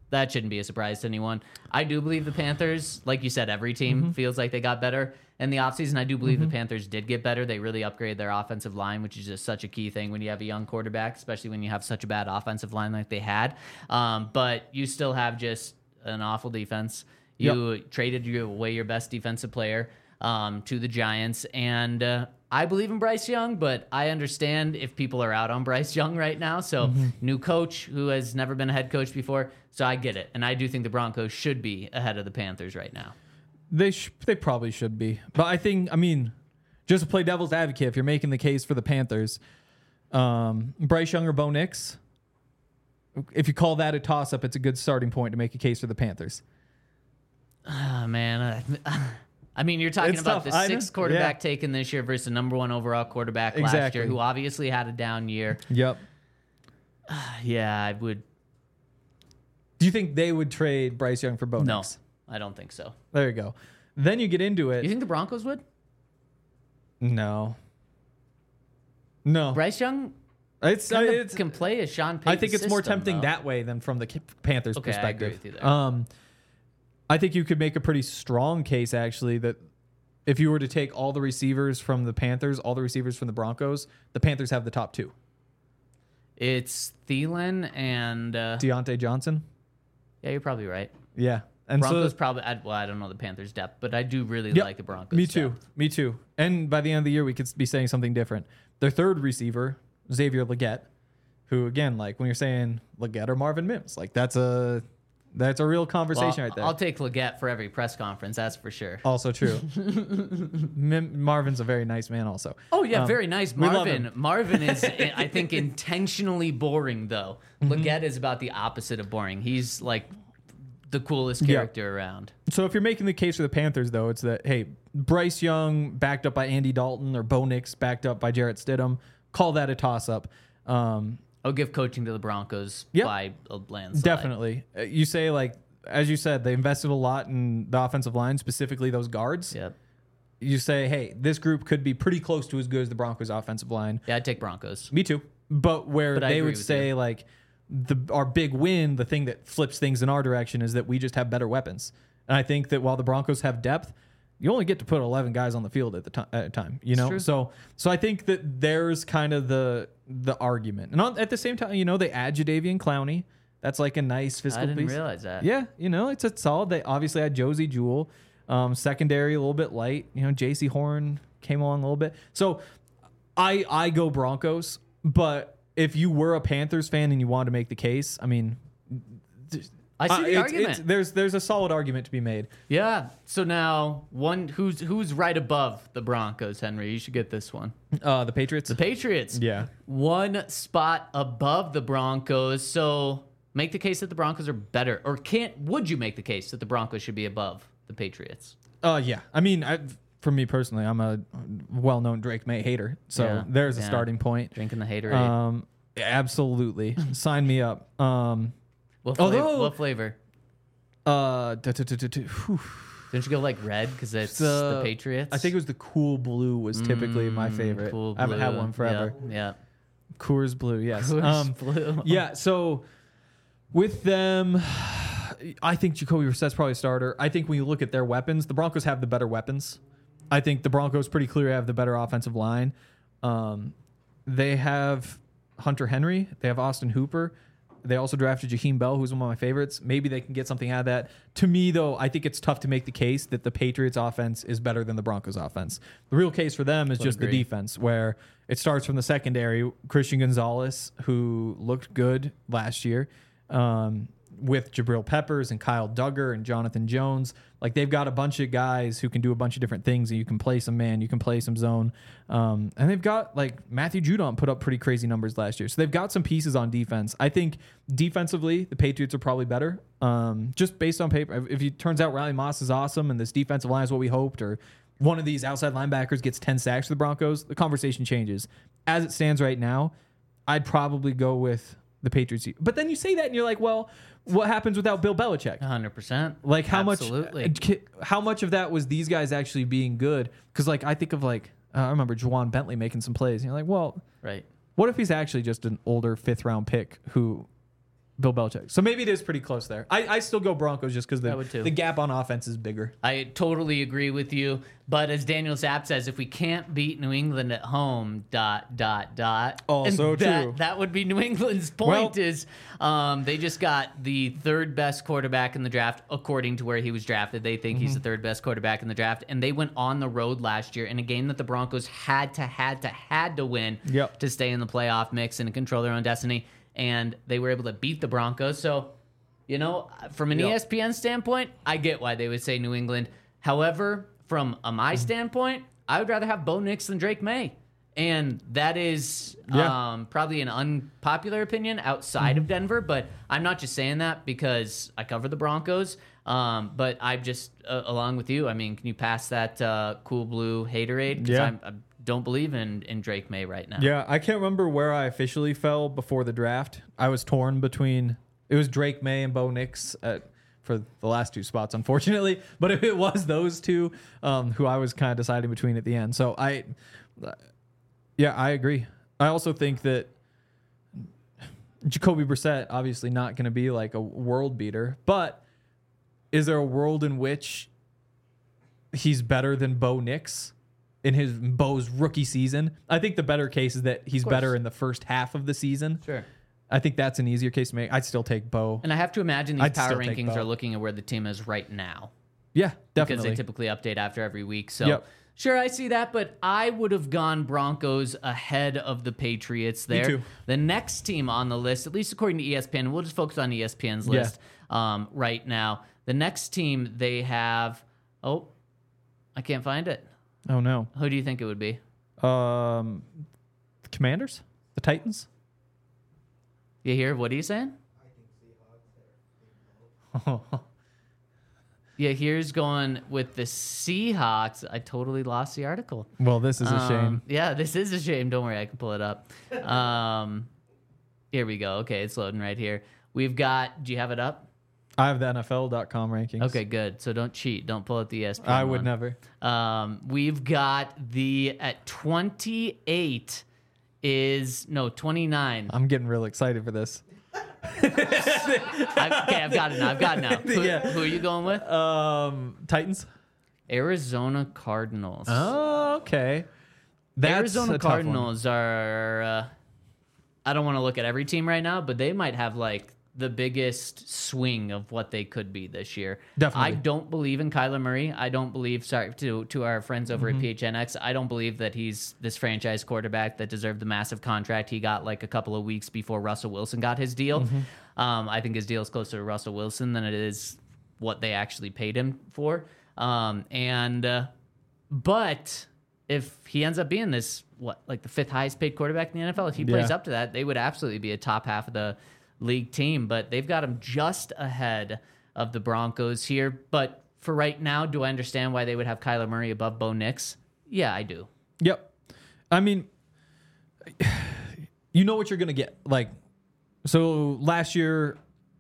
that shouldn't be a surprise to anyone. I do believe the Panthers, like you said, every team Mm-hmm. feels like they got better in the offseason. I do believe the Panthers did get better. They really upgraded their offensive line, which is just such a key thing when you have a young quarterback, especially when you have such a bad offensive line like they had. Um, but you still have just an awful defense. You traded your, away your best defensive player um, to the Giants, and uh, I believe in Bryce Young, but I understand if people are out on Bryce Young right now. So Mm-hmm. new coach who has never been a head coach before. So I get it. And I do think the Broncos should be ahead of the Panthers right now. They sh- they probably should be, but I think I mean, just to play devil's advocate, if you're making the case for the Panthers, um, Bryce Young or Bo Nix, if you call that a toss up, it's a good starting point to make a case for the Panthers. Oh, man. I, I mean, you're talking It's about tough. the I know. sixth quarterback Yeah. taken this year versus the number one overall quarterback last Exactly. year, who obviously had a down year. Yep. Yeah, I would. Do you think they would trade Bryce Young for Bo No, Nix? I don't think so. There you go. Then you get into it. You think the Broncos would? no. No. Bryce Young It's, kind of it's can play a Sean Payton I think it's more system, tempting though. that way than from the K- Panthers' Okay, I perspective. agree with you there. Um, I think you could make a pretty strong case actually that if you were to take all the receivers from the Panthers, all the receivers from the Broncos, the Panthers have the top two. It's Thielen and uh, Deontay Johnson. yeah, you're probably right. Yeah. And Broncos so, probably. I, well, I don't know the Panthers' depth, but I do really Yep, like the Broncos. Me too. depth. Me too. And by the end of the year, we could be saying something different. Their third receiver, Xavier Leggett, who again, like when you're saying Leggett or Marvin Mims, like that's a that's a real conversation Well, right there. I'll take Leggett for every press conference. That's for sure. Also true. Mim- Marvin's a very nice man. Also. Oh yeah, Um, very nice, we love Marvin. him. Marvin is, I think, intentionally boring though. Mm-hmm. Leggett is about the opposite of boring. He's like the coolest Yeah. character around. So if you're making the case for the Panthers, though, it's that hey, Bryce Young backed up by Andy Dalton or Bo Nix backed up by Jarrett Stidham. Call that a toss-up. Um, I'll give coaching to the Broncos Yep. by a landslide. definitely. Uh, You say like, as you said, they invested a lot in the offensive line, specifically those guards. Yep. You say, hey, this group could be pretty close to as good as the Broncos' offensive line. Yeah, I'd take Broncos. Me too. But where But I they agree would with say like the our big win, the thing that flips things in our direction is that we just have better weapons. And I think that while the Broncos have depth, you only get to put eleven guys on the field at the time at a time, you know? true. So so I think that there's kind of the the argument. And on, at the same time, you know, they add Jadeveon Clowney. That's like a nice fiscal I didn't piece. realize that. Yeah, you know, it's a solid. They obviously had Josie Jewell. Um, secondary a little bit light. You know, J C Horn came along a little bit. So I I go Broncos, but if you were a Panthers fan and you wanted to make the case, I mean, I see uh, the it's- argument. it's- there's there's a solid argument to be made. Yeah. So now, one who's who's right above the Broncos, Henry? You should get this one. Uh, the Patriots. The Patriots. Yeah. One spot above the Broncos. So make the case that the Broncos are better, or can't? Would you make the case that the Broncos should be above the Patriots? Uh, yeah. I mean, I, for me personally, I'm a well-known Drake May hater, so Yeah, there's a yeah. starting point. Drinking the haterade. Um, absolutely, sign me up. Um, what, flavor, although- what flavor? uh, duh, duh, duh, duh, duh, whew. Didn't you go like red because it's Uh, the Patriots? I think it was the Cool Blue was typically my Mm, favorite. Cool I haven't had Blue. one forever. Yeah. yeah. Coors Blue, yes. Coors Um, Blue. yeah. So with them, I think Jacoby Brissett's probably a starter. I think when you look at their weapons, the Broncos have the better weapons. I think the Broncos pretty clearly have the better offensive line. Um, they have Hunter Henry. They have Austin Hooper. They also drafted Jaheim Bell, who's one of my favorites. Maybe they can get something out of that. To me, though, I think it's tough to make the case that the Patriots offense is better than the Broncos offense. The real case for them is Would just agree. the defense, where it starts from the secondary. Christian Gonzalez, who looked good last year, um, with Jabril Peppers and Kyle Duggar and Jonathan Jones. Like, they've got a bunch of guys who can do a bunch of different things, and you can play some man, you can play some zone. Um, and they've got, like, Matthew Judon put up pretty crazy numbers last year. So they've got some pieces on defense. I think defensively, the Patriots are probably better. Um, just based on paper. If it turns out Riley Moss is awesome and this defensive line is what we hoped, or one of these outside linebackers gets ten sacks for the Broncos, the conversation changes. As it stands right now, I'd probably go with the Patriots. But then you say that and you're like, well, what happens without Bill Belichick? one hundred percent. Like how Absolutely. much how much of that was these guys actually being good? Because like I think of like uh, I remember Juwan Bentley making some plays. And you're like, well, Right. what if he's actually just an older fifth round pick who Bill Belichick. So maybe it is pretty close there. I, I still go Broncos just because I would the, too. the gap on offense is bigger. I totally agree with you. But as Daniel Zapp says, if we can't beat New England at home, dot, dot, dot. Also and that, true. That would be New England's point Well- is um, they just got the third best quarterback in the draft, according to where he was drafted. They think Mm-hmm. he's the third best quarterback in the draft. And they went on the road last year in a game that the Broncos had to, had to, had to win Yep. to stay in the playoff mix and control their own destiny. And they were able to beat the Broncos. So, you know, from an Yep. E S P N standpoint, I get why they would say New England. However, from a my Mm-hmm. standpoint, I would rather have Bo Nix than Drake May. And that is Yeah. um, probably an unpopular opinion outside Mm-hmm. of Denver, but I'm not just saying that because I cover the Broncos. Um, but I'm just, uh, along with you, I mean, can you pass that uh, cool blue haterade? Because Yeah. I don't believe in, in Drake May right now. Yeah, I can't remember where I officially fell before the draft. I was torn between it was Drake May and Bo Nix at, for the last two spots, unfortunately. But if it was those two, um, who I was kind of deciding between at the end. So I, yeah, I agree. I also think that Jacoby Brissett obviously not going to be like a world beater, but is there a world in which he's better than Bo Nix in his Bo's rookie season? I think the better case is that he's course. better in the first half of the season. Sure. I think that's an easier case to make. I'd still take Bo. And I have to imagine these I'd power still take rankings Bo. are looking at where the team is right now. Yeah, Because definitely. they typically update after every week. So, Yep. sure, I see that, but I would have gone Broncos ahead of the Patriots there. too. The next team on the list, at least according to E S P N, we'll just focus on E S P N's Yeah. list um, right now. The next team they have, oh, I can't find it. Oh no. Who do you think it would be? Um, the Commanders, the Titans. You hear? What are you saying? Yeah, here's going with the Seahawks. I totally lost the article. Well, this is a Um, shame. Yeah, this is a shame. Don't worry, I can pull it up. Um, here we go. Okay, it's loading right here. We've got. Do you have it up? I have the N F L dot com rankings. Okay, good. So don't cheat. Don't pull out the E S P N. I would one. never. Um, we've got the at twenty-eight is no twenty-nine. I'm getting real excited for this. I, okay, I've got it now. I've got it now. Who, Yeah. who are you going with? Um, Titans. Arizona Cardinals. Oh, okay. That's Arizona a tough one. Cardinals are. Uh, I don't want to look at every team right now, but they might have like the biggest swing of what they could be this year. Definitely. I don't believe in Kyler Murray. I don't believe. Sorry to to our friends over Mm-hmm. at P H N X. I don't believe that he's this franchise quarterback that deserved the massive contract he got like a couple of weeks before Russell Wilson got his deal. Mm-hmm. Um, I think his deal is closer to Russell Wilson than it is what they actually paid him for. Um, and uh, but if he ends up being this what like the fifth highest paid quarterback in the N F L, if he plays Yeah. up to that, they would absolutely be a top half of the league team. But they've got him just ahead of the Broncos here. But for right now, do I understand why they would have Kyler Murray above Bo Nix? Yeah, I do. Yep. I mean, you know what you're gonna get. Like, so last year,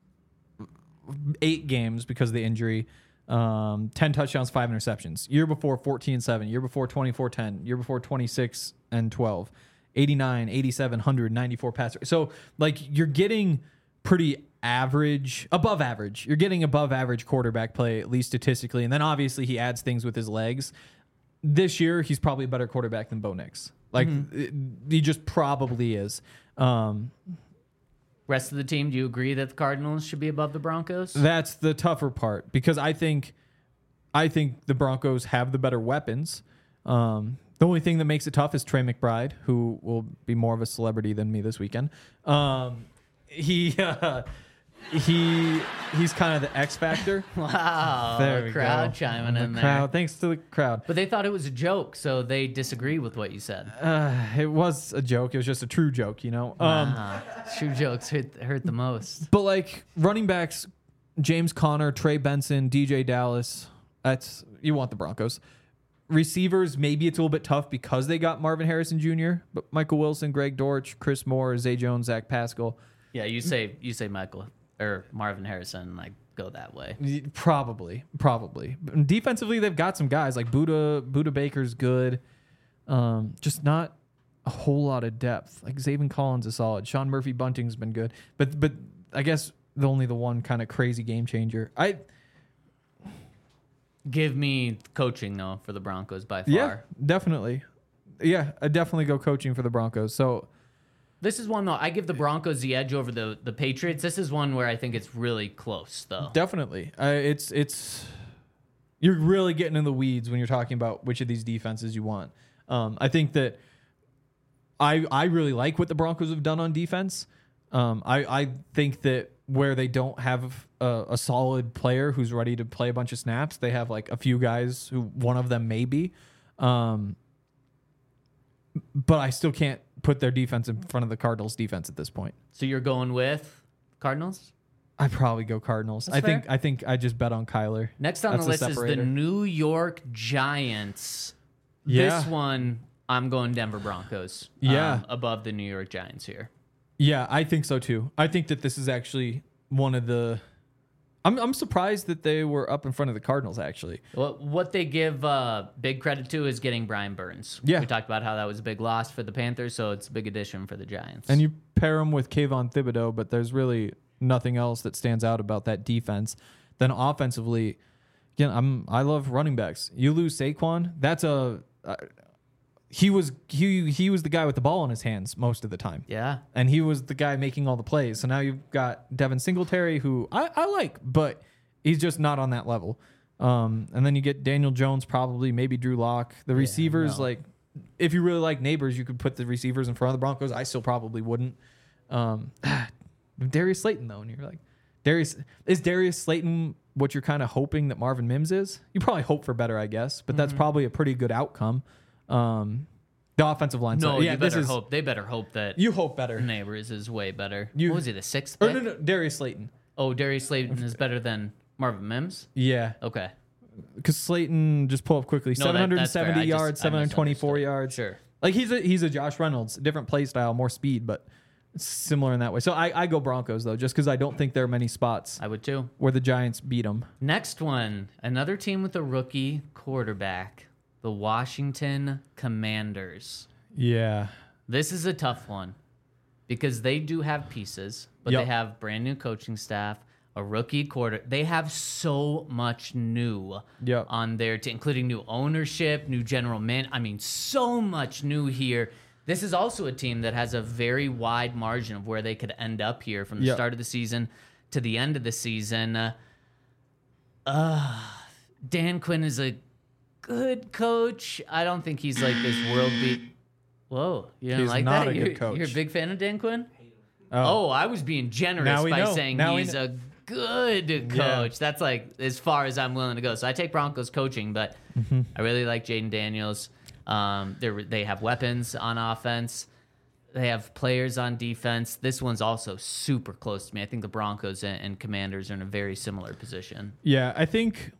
eight games because of the injury, um, ten touchdowns, five interceptions. Year before, fourteen and seven. Year before, twenty-four ten. Year before, twenty-six and twelve. eighty-nine, eighty-seven, one hundred, ninety-four passer. So, like, you're getting pretty average, above average. You're getting above average quarterback play, at least statistically. And then obviously he adds things with his legs. This year, he's probably a better quarterback than Bo Nix. Like, it- he just probably is. Um, Rest of the team, do you agree that the Cardinals should be above the Broncos? That's the tougher part because I think I think the Broncos have the better weapons. Um, the only thing that makes it tough is Trey McBride, who will be more of a celebrity than me this weekend. Um, he uh, he he's kind of the X factor. Wow, There the we crowd go. chiming The in there. crowd, thanks to the crowd. But they thought it was a joke, so they disagree with what you said. Uh, it was a joke. It was just a true joke, you know. Um, Ah, true jokes hurt, hurt the most. But like running backs, James Conner, Trey Benson, D J Dallas. That's you want the Broncos. Receivers, maybe it's a little bit tough because they got Marvin Harrison Junior But Michael Wilson, Greg Dortch, Chris Moore, Zay Jones, Zach Pascal. Yeah, you say you say Michael or Marvin Harrison, like go that way. Probably, probably. But defensively, they've got some guys like Buda. Buda Baker's good. Um, just not a whole lot of depth. Like Zaven Collins is solid. Sean Murphy Bunting's been good, but but I guess the only the one kind of crazy game changer. I Give me coaching, though, for the Broncos by far. yeah, definitely. Yeah, I definitely go coaching for the Broncos. So This is one, though, I give the Broncos the edge over the, the Patriots. This is one where I think it's really close, though. definitely, uh, it's it's you're really getting in the weeds when you're talking about which of these defenses you want. Um, I think that I I really like what the Broncos have done on defense. Um, I I think that where they don't have a, a solid player who's ready to play a bunch of snaps, they have like a few guys who one of them may be. Um, but I still can't put their defense in front of the Cardinals' defense at this point. So you're going with Cardinals? I'd probably go Cardinals. That's I think fair. I think I just bet on Kyler. Next on That's the a list is the separator. New York Giants. Yeah. This one, I'm going Denver Broncos. Yeah. um, above the New York Giants here. Yeah, I think so too. I think that this is actually one of the. I'm I'm surprised that they were up in front of the Cardinals. Actually, What what they give uh, big credit to is getting Brian Burns. Yeah. We talked about how that was a big loss for the Panthers, so it's a big addition for the Giants. and you pair them with Kayvon Thibodeau, but there's really nothing else that stands out about that defense. Then offensively, again, I'm I love running backs. You lose Saquon, that's a. Uh, he was he he was the guy with the ball in his hands most of the time. yeah. And he was the guy making all the plays. So now you've got Devin Singletary, who I, I like, but he's just not on that level. Um, and then you get Daniel Jones, probably, maybe Drew Lock. The receivers, no. like, if you really like neighbors, you could put the receivers in front of the Broncos. I still probably wouldn't. Um, Darius Slayton, though, and you're like, Darius is Darius Slayton what you're kind of hoping that Marvin Mims is? You probably hope for better, I guess, but that's probably a pretty good outcome. Um, the offensive line. No, so, yeah, you this better is, hope. They better hope that You hope better. Neighbors is way better. You- what was he, the sixth Or pick? no, no, Darius Slayton. Oh, Darius Slayton is better than Marvin Mims? Yeah, Okay. because Slayton, just pull up quickly, No, that- seven hundred that's fair. seventy I just- yards, I seven hundred twenty-four misunderstood. yards. Sure. Like he's a he's a Josh Reynolds, different play style, more speed, but similar in that way. So I, I go Broncos though, just because I don't think there are many spots I would too. where the Giants beat them. Next one, another team with a rookie quarterback, the Washington Commanders. Yeah, This is a tough one because they do have pieces, but Yep. they have brand new coaching staff, a rookie quarter. They have so much new Yep. on their team, including new ownership, new general man. I mean, so much new here. This is also a team that has a very wide margin of where they could end up here from the Yep. start of the season to the end of the season. Uh, uh, Dan Quinn is a good coach. I don't think he's like this world beat. Whoa, you don't He's like not that? a good you're, coach. You're a big fan of Dan Quinn? Oh, I was being generous Now we by know. saying Now we he's kn- a good coach. That's like as far as I'm willing to go. So I take Broncos coaching, but Mm-hmm. I really like Jaden Daniels. Um, they they have weapons on offense. They have players on defense. This one's also super close to me. I think the Broncos and, and Commanders are in a very similar position. yeah. I think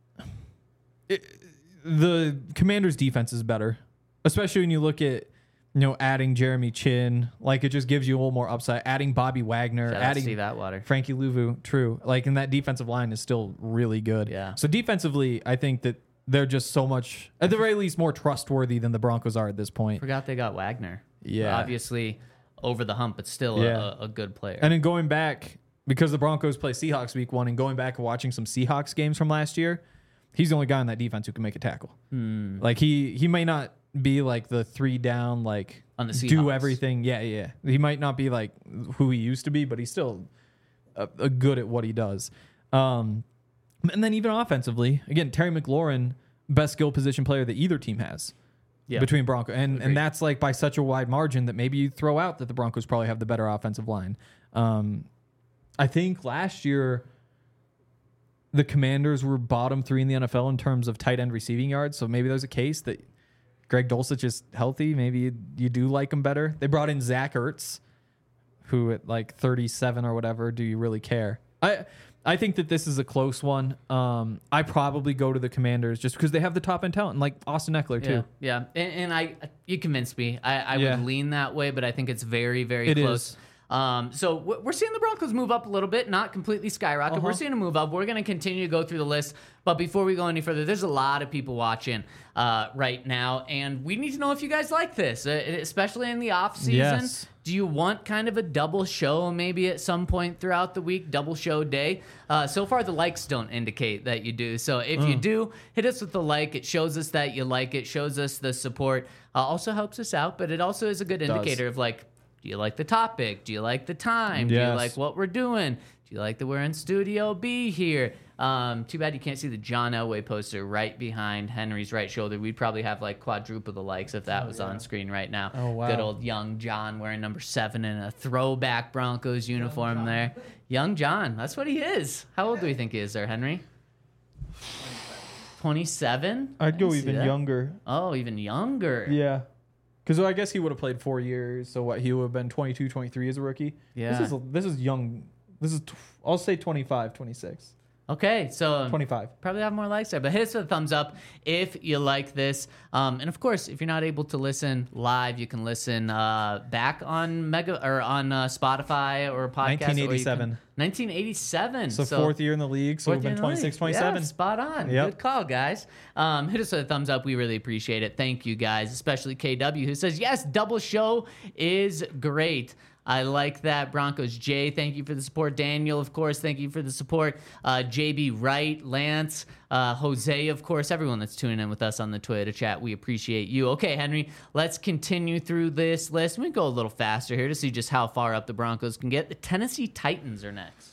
it, the Commanders' defense is better, especially when you look at you know adding Jeremy Chin. Like it just gives you a little more upside. Adding Bobby Wagner, Shout out adding Steve Atwater. Frankie Louvu, true. Like, and that defensive line is still really good. Yeah. So defensively, I think that they're just so much, at the very least, more trustworthy than the Broncos are at this point. Forgot they got Wagner. Yeah. Obviously over the hump, but still Yeah. a, a good player. And then going back, because the Broncos play Seahawks week one, and going back and watching some Seahawks games from last year, he's the only guy on that defense who can make a tackle. Hmm. Like he he might not be like the three down, like On the do Seahawks. everything. Yeah, yeah. He might not be like who he used to be, but he's still a, a good at what he does. Um, and then even offensively, again, Terry McLaurin, best skill position player that either team has. Yeah. Between Bronco and Agreed. and that's like by such a wide margin that maybe you throw out that the Broncos probably have the better offensive line. Um, I think last year the Commanders were bottom three in the N F L in terms of tight end receiving yards. So maybe there's a case that Greg Dulcich is healthy. Maybe you, you do like him better. They brought in Zach Ertz, who at like thirty-seven or whatever, do you really care? I I think that this is a close one. Um, I probably go to the Commanders just because they have the top end talent, and like Austin Eckler too. Yeah, yeah. And, and I, you convinced me. I, I Yeah. would lean that way, but I think it's very, very It close. is. Um, so w- we're seeing the Broncos move up a little bit, not completely skyrocket. Uh-huh. We're seeing a move up. We're going to continue to go through the list. But before we go any further, there's a lot of people watching uh, right now, and we need to know if you guys like this, uh, especially in the off season. Yes. Do you want kind of a double show maybe at some point throughout the week, double show day? Uh, so far, the likes don't indicate that you do. So if you do, hit us with the like. It shows us that you like it, shows us the support. Uh, also helps us out, but it also is a good indicator of like, do you like the topic? Do you like the time? Do you Yes. like what we're doing? Do you like that we're in Studio B here? Um, too bad you can't see the John Elway poster right behind Henry's right shoulder. We'd probably have like quadruple the likes if that was on screen right now. Oh, wow. Good old young John wearing number seven in a throwback Broncos uniform there. Young John, that's what he is. How old do you think he is there, Henry? twenty-seven? I'd I go can see even that. younger. Oh, even younger. Yeah. Because I guess he would have played four years. So what? He would have been twenty-two, twenty-three as a rookie. Yeah. This is this is young. This is tw- I'll say twenty-five, twenty-six, Okay, so twenty-five. probably have more likes there, but hit us with a thumbs up if you like this. Um, and of course, if you're not able to listen live, you can listen uh, back on Mega or on uh, Spotify or podcast. nineteen eighty-seven. Or you can, nineteen eighty-seven. So, fourth year in the league. So we've fourth been year in the league. twenty-six, twenty-seven. Yeah, spot on. Yep. Good call, guys. Um, hit us with a thumbs up. We really appreciate it. Thank you, guys, especially K W, who says, yes, double show is great. I like that. Broncos Jay, thank you for the support. Daniel, of course, thank you for the support. Uh, J B Wright, Lance, uh, Jose, of course, everyone that's tuning in with us on the Twitter chat. We appreciate you. Okay, Henry, let's continue through this list. We go a little faster here to see just how far up the Broncos can get. The Tennessee Titans are next.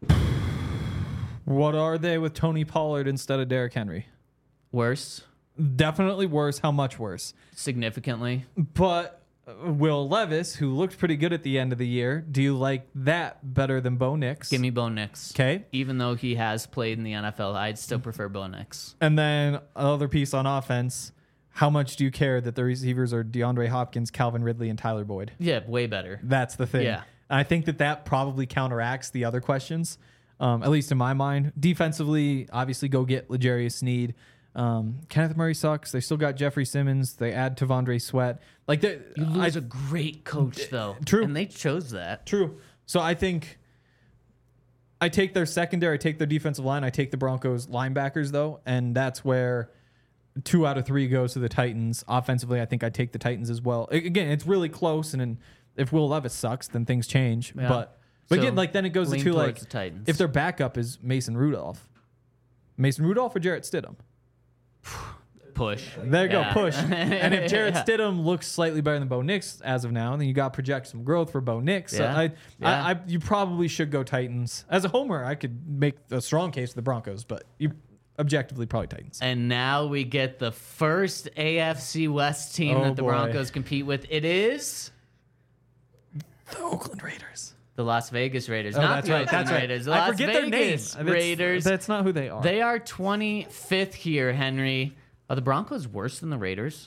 What are they with Tony Pollard instead of Derrick Henry? Worse, Definitely worse. How much worse? significantly. But uh, Will Levis, who looked pretty good at the end of the year, do you like that better than Bo Nix? Give me Bo Nix. Okay. Even though he has played in the N F L, I'd still prefer Bo Nix. And then another piece on offense. How much do you care that the receivers are DeAndre Hopkins, Calvin Ridley, and Tyler Boyd? Yeah, way better. That's the thing. Yeah. And I think that that probably counteracts the other questions, um, at least in my mind. Defensively, obviously, go get L'Jarius Sneed. Um, Kenneth Murray sucks. They still got Jeffrey Simmons. They add Tavondre Sweat. Like they, You I, lose a great coach, though. True. And they chose that. True. So I think I take their secondary, I take their defensive line, I take the Broncos linebackers, though, and that's where two out of three goes to the Titans. Offensively, I think I take the Titans as well. A- Again, it's really close, and then if Will Levis sucks, then things change. Yeah. But but So, again, like then it goes lean to like towards the Titans. if their backup is Mason Rudolph, Mason Rudolph or Jarrett Stidham. Push. There you Yeah. go, push. And if Jarrett Yeah. Stidham looks slightly better than Bo Nix as of now, then you got to project some growth for Bo Nix. So Yeah. I, Yeah. I, I, you probably should go Titans. As a homer, I could make a strong case for the Broncos, but you objectively probably Titans. And now we get the first A F C West team Oh, that the boy. Broncos compete with. It is The Oakland Raiders. the Las Vegas Raiders. Oh, not that's the right. Oakland That's right. Raiders. The I Las forget their name. Vegas That's- Raiders. That's not who they are. They are twenty-fifth here, Henry. Are the Broncos worse than the Raiders?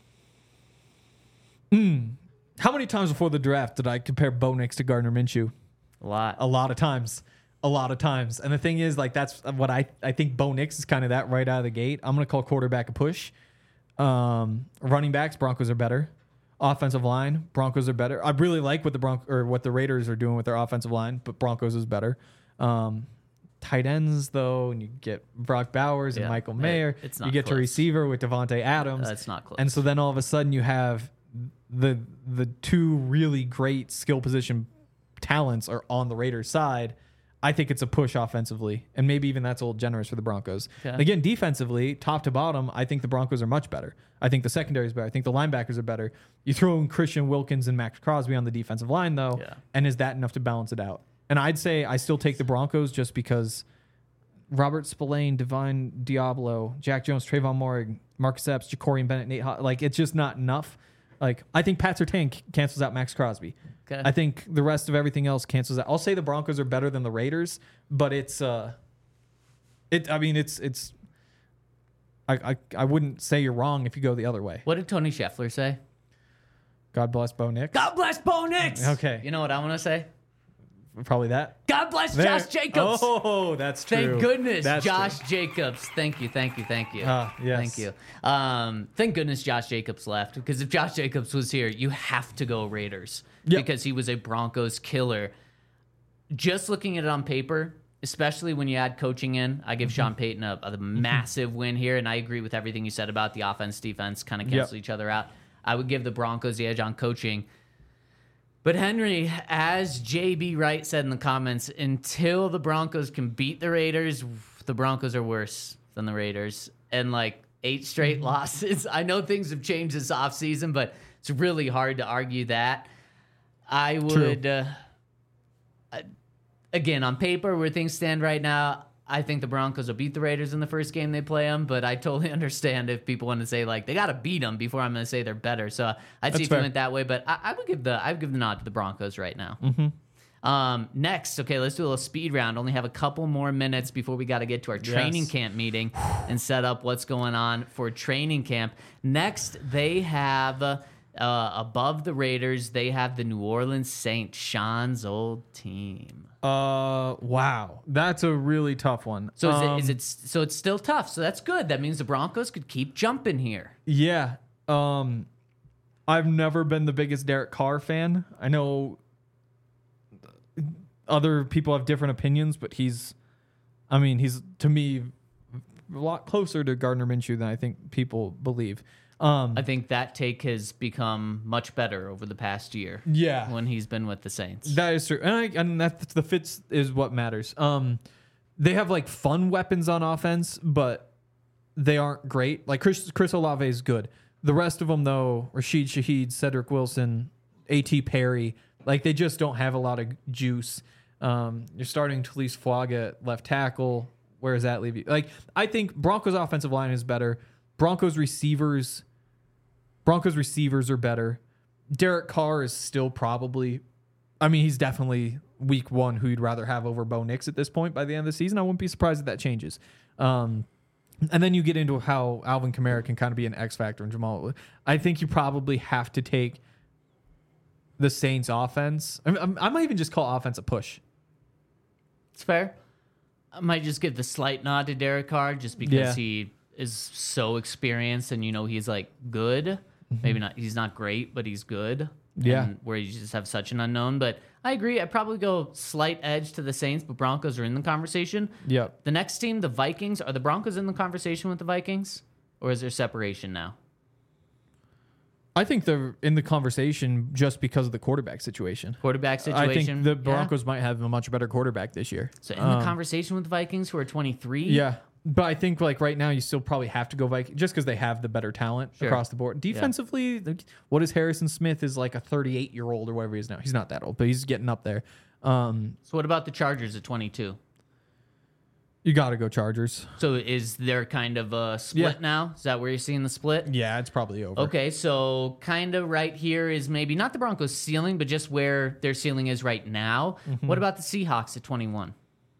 How many times before the draft did I compare Bo Nix to Gardner Minshew? A lot. A lot of times. A lot of times. And the thing is, like, that's what I, I think Bo Nix is kind of that right out of the gate. I'm going to call quarterback a push. Um, running backs, Broncos are better. Offensive line, Broncos are better. I really like what the Bron- or what the Raiders are doing with their offensive line, but Broncos is better. Um, tight ends, though, and you get Brock Bowers and Yeah. Michael It- Mayer. it's you not get to close. receiver with Devontae Adams. That's not close. And so then all of a sudden you have the the two really great skill position talents are on the Raiders side. I think it's a push offensively, and maybe even that's a little generous for the Broncos. Okay. Again, defensively, top to bottom, I think the Broncos are much better. I think the secondary is better. I think the linebackers are better. You throw in Christian Wilkins and Max Crosby on the defensive line, though, Yeah. and is that enough to balance it out? And I'd say I still take the Broncos just because Robert Spillane, Divine Diablo, Jack Jones, Trayvon Moore, Marcus Epps, Ja'Cory Bennett, Nate Ho- like it's just not enough. Like I think Pat Surtain c- cancels out Max Crosby. Okay. I think the rest of everything else cancels out. I'll say the Broncos are better than the Raiders, but it's uh, it. I mean, it's it's. I I, I wouldn't say you're wrong if you go the other way. What did Tony Scheffler say? God bless Bo Nix. God bless Bo Nix. Okay. You know what I want to say? probably that. God bless There. Josh Jacobs. Oh, that's true. Thank goodness, That's Josh true. Jacobs. Thank you, thank you, thank you. Ah, yes. Thank you. Um, thank goodness Josh Jacobs left, because if Josh Jacobs was here, you have to go Raiders Yep. because he was a Broncos killer. Just looking at it on paper, especially when you add coaching in, I give Mm-hmm. Sean Payton a, a massive win here, and I agree with everything you said about the offense, defense kind of cancel Yep. each other out. I would give the Broncos the edge on coaching. But Henry, as J B Wright said in the comments, until the Broncos can beat the Raiders, the Broncos are worse than the Raiders. And like eight straight losses. I know things have changed this offseason, but it's really hard to argue that. I would, uh, uh, again, on paper, where things stand right now, I think the Broncos will beat the Raiders in the first game they play them, but I totally understand if people want to say like they got to beat them before I'm going to say they're better. So I'd see That's if fair. you went that way, but I, I would give the I would give the nod to the Broncos right now. Mm-hmm. Um, next, okay, let's do a little speed round. Only have a couple more minutes before we got to get to our training Yes. camp meeting and set up what's going on for training camp. Next, they have uh, above the Raiders, they have the New Orleans Saints, Sean's old team. Uh, wow, that's a really tough one. So is, Um, it, is it so it's still tough. So that's good. That means the Broncos could keep jumping here. Yeah. Um, I've never been the biggest Derek Carr fan. I know other people have different opinions, but he's, I mean, he's to me a lot closer to Gardner Minshew than I think people believe. Um, I think that take has become much better over the past year yeah, when he's been with the Saints. that is true, and I and that's the fits is what matters. Um, they have like fun weapons on offense, but they aren't great. Like Chris Chris Olave is good. The rest of them, though, Rashid Shaheed, Cedric Wilson, A T Perry, like they just don't have a lot of juice. Um, you're starting Talise Fuaga at left tackle. Where does that leave you? Like I think Broncos offensive line is better. Broncos receivers, Broncos receivers are better. Derek Carr is still probably, I mean, he's definitely week one who you'd rather have over Bo Nix at this point by the end of the season. I wouldn't be surprised if that changes. Um, and then you get into how Alvin Kamara can kind of be an X factor in Jamal. I think you probably have to take the Saints offense. I, mean, I might even just call offense a push. It's fair. I might just give the slight nod to Derek Carr just because Yeah. he is so experienced and you know he's like good. Maybe not. He's not great, but he's good. Yeah. And where you just have such an unknown. But I agree. I'd probably go slight edge to the Saints, but Broncos are in the conversation. Yep. The next team, the Vikings, are the Broncos in the conversation with the Vikings, or is there separation now? I think they're in the conversation just because of the quarterback situation. Quarterback situation. I think the Yeah. Broncos might have a much better quarterback this year. So in Um, the conversation with the Vikings, who are twenty-three. Yeah. But I think like right now you still probably have to go Vikings just because they have the better talent Sure. across the board. Defensively, like, what is Harrison Smith is like a thirty-eight year old or whatever he is now. He's not that old, but he's getting up there. Um, So what about the Chargers at twenty-two? you got to go Chargers. So is there kind of a split Yeah. now? Is that where you're seeing the split? Yeah, it's probably over. Okay, so kind of right here is maybe not the Broncos' ceiling, but just where their ceiling is right now. Mm-hmm. What about the Seahawks at twenty-one?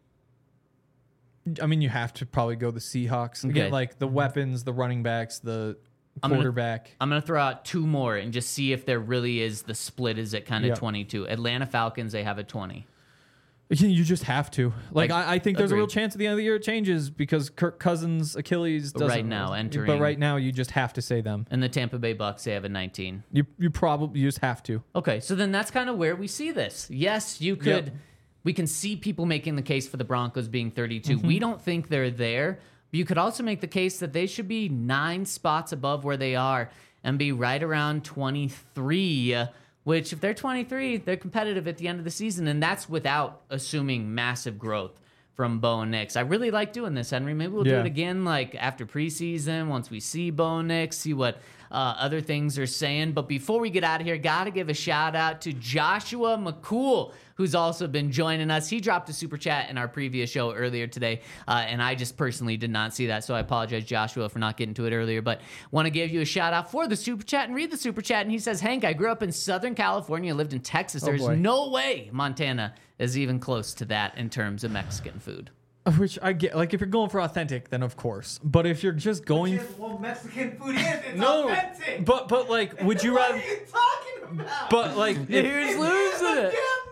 I mean, you have to probably go the Seahawks. Okay. Again, like the weapons, the running backs, the I'm gonna- quarterback. I'm going to throw out two more and just see if there really is the split is at kind of Yeah. twenty-two. Atlanta Falcons, they have a twenty. You just have to. Like, Like, I, I think there's a real agreed. chance at the end of the year it changes because Kirk Cousins, Achilles But doesn't. right now, entering- But right now, you just have to say them. And the Tampa Bay Bucks, they have a nineteen. You you probably you just have to. Okay, so then that's kind of where we see this. Yes, you could. Yep. We can see people making the case for the Broncos being thirty-two. Mm-hmm. We don't think they're there. But you could also make the case that they should be nine spots above where they are and be right around twenty-three. uh, Which, if they're twenty-three, they're competitive at the end of the season, and that's without assuming massive growth from Bo Nix. I really like doing this, Henry. Maybe we'll do Yeah. it again, like after preseason, once we see Bo Nix, see what uh, other things are saying. But before we get out of here, got to give a shout out to Joshua McCool, who's also been joining us. He dropped a super chat in our previous show earlier today, uh, and I just personally did not see that, so I apologize, Joshua, for not getting to it earlier. But want to give you a shout out for the super chat and read the super chat. And he says, Hank, I grew up in Southern California, lived in Texas. There's boy. no way Montana is even close to that in terms of Mexican food. Which I get. Like if you're going for authentic, then of course. But if you're just going, Well, Mexican food is. It's no. authentic. But but like, would you What rather? are you talking about? But like, if, Here's losing it. Damn name.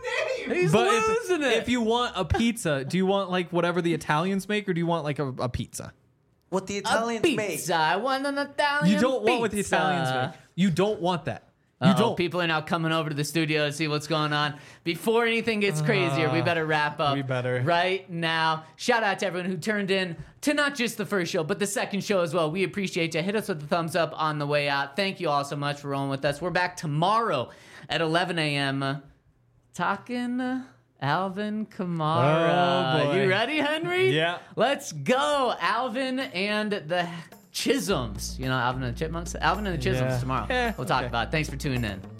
He's but losing if, it. if you want a pizza, do you want like whatever the Italians make, or do you want like a, a pizza? What the a Italians pizza. make. I want an Italian You don't want what the pizza. Italians make. You don't want that. You Uh-oh, don't. People are now coming over to the studio to see what's going on. Before anything gets crazier, we better wrap up we better. right now. Shout out to everyone who turned in to not just the first show, but the second show as well. We appreciate you. Hit us with the thumbs up on the way out. Thank you all so much for rolling with us. We're back tomorrow at eleven a.m. talking Alvin Kamara. Oh, boy. You ready, Henry? Yeah. Let's go. Alvin and the Chisholms. You know, Alvin and the Chipmunks? Alvin and the Chisholms Yeah. tomorrow. Eh, we'll talk okay. about it. Thanks for tuning in.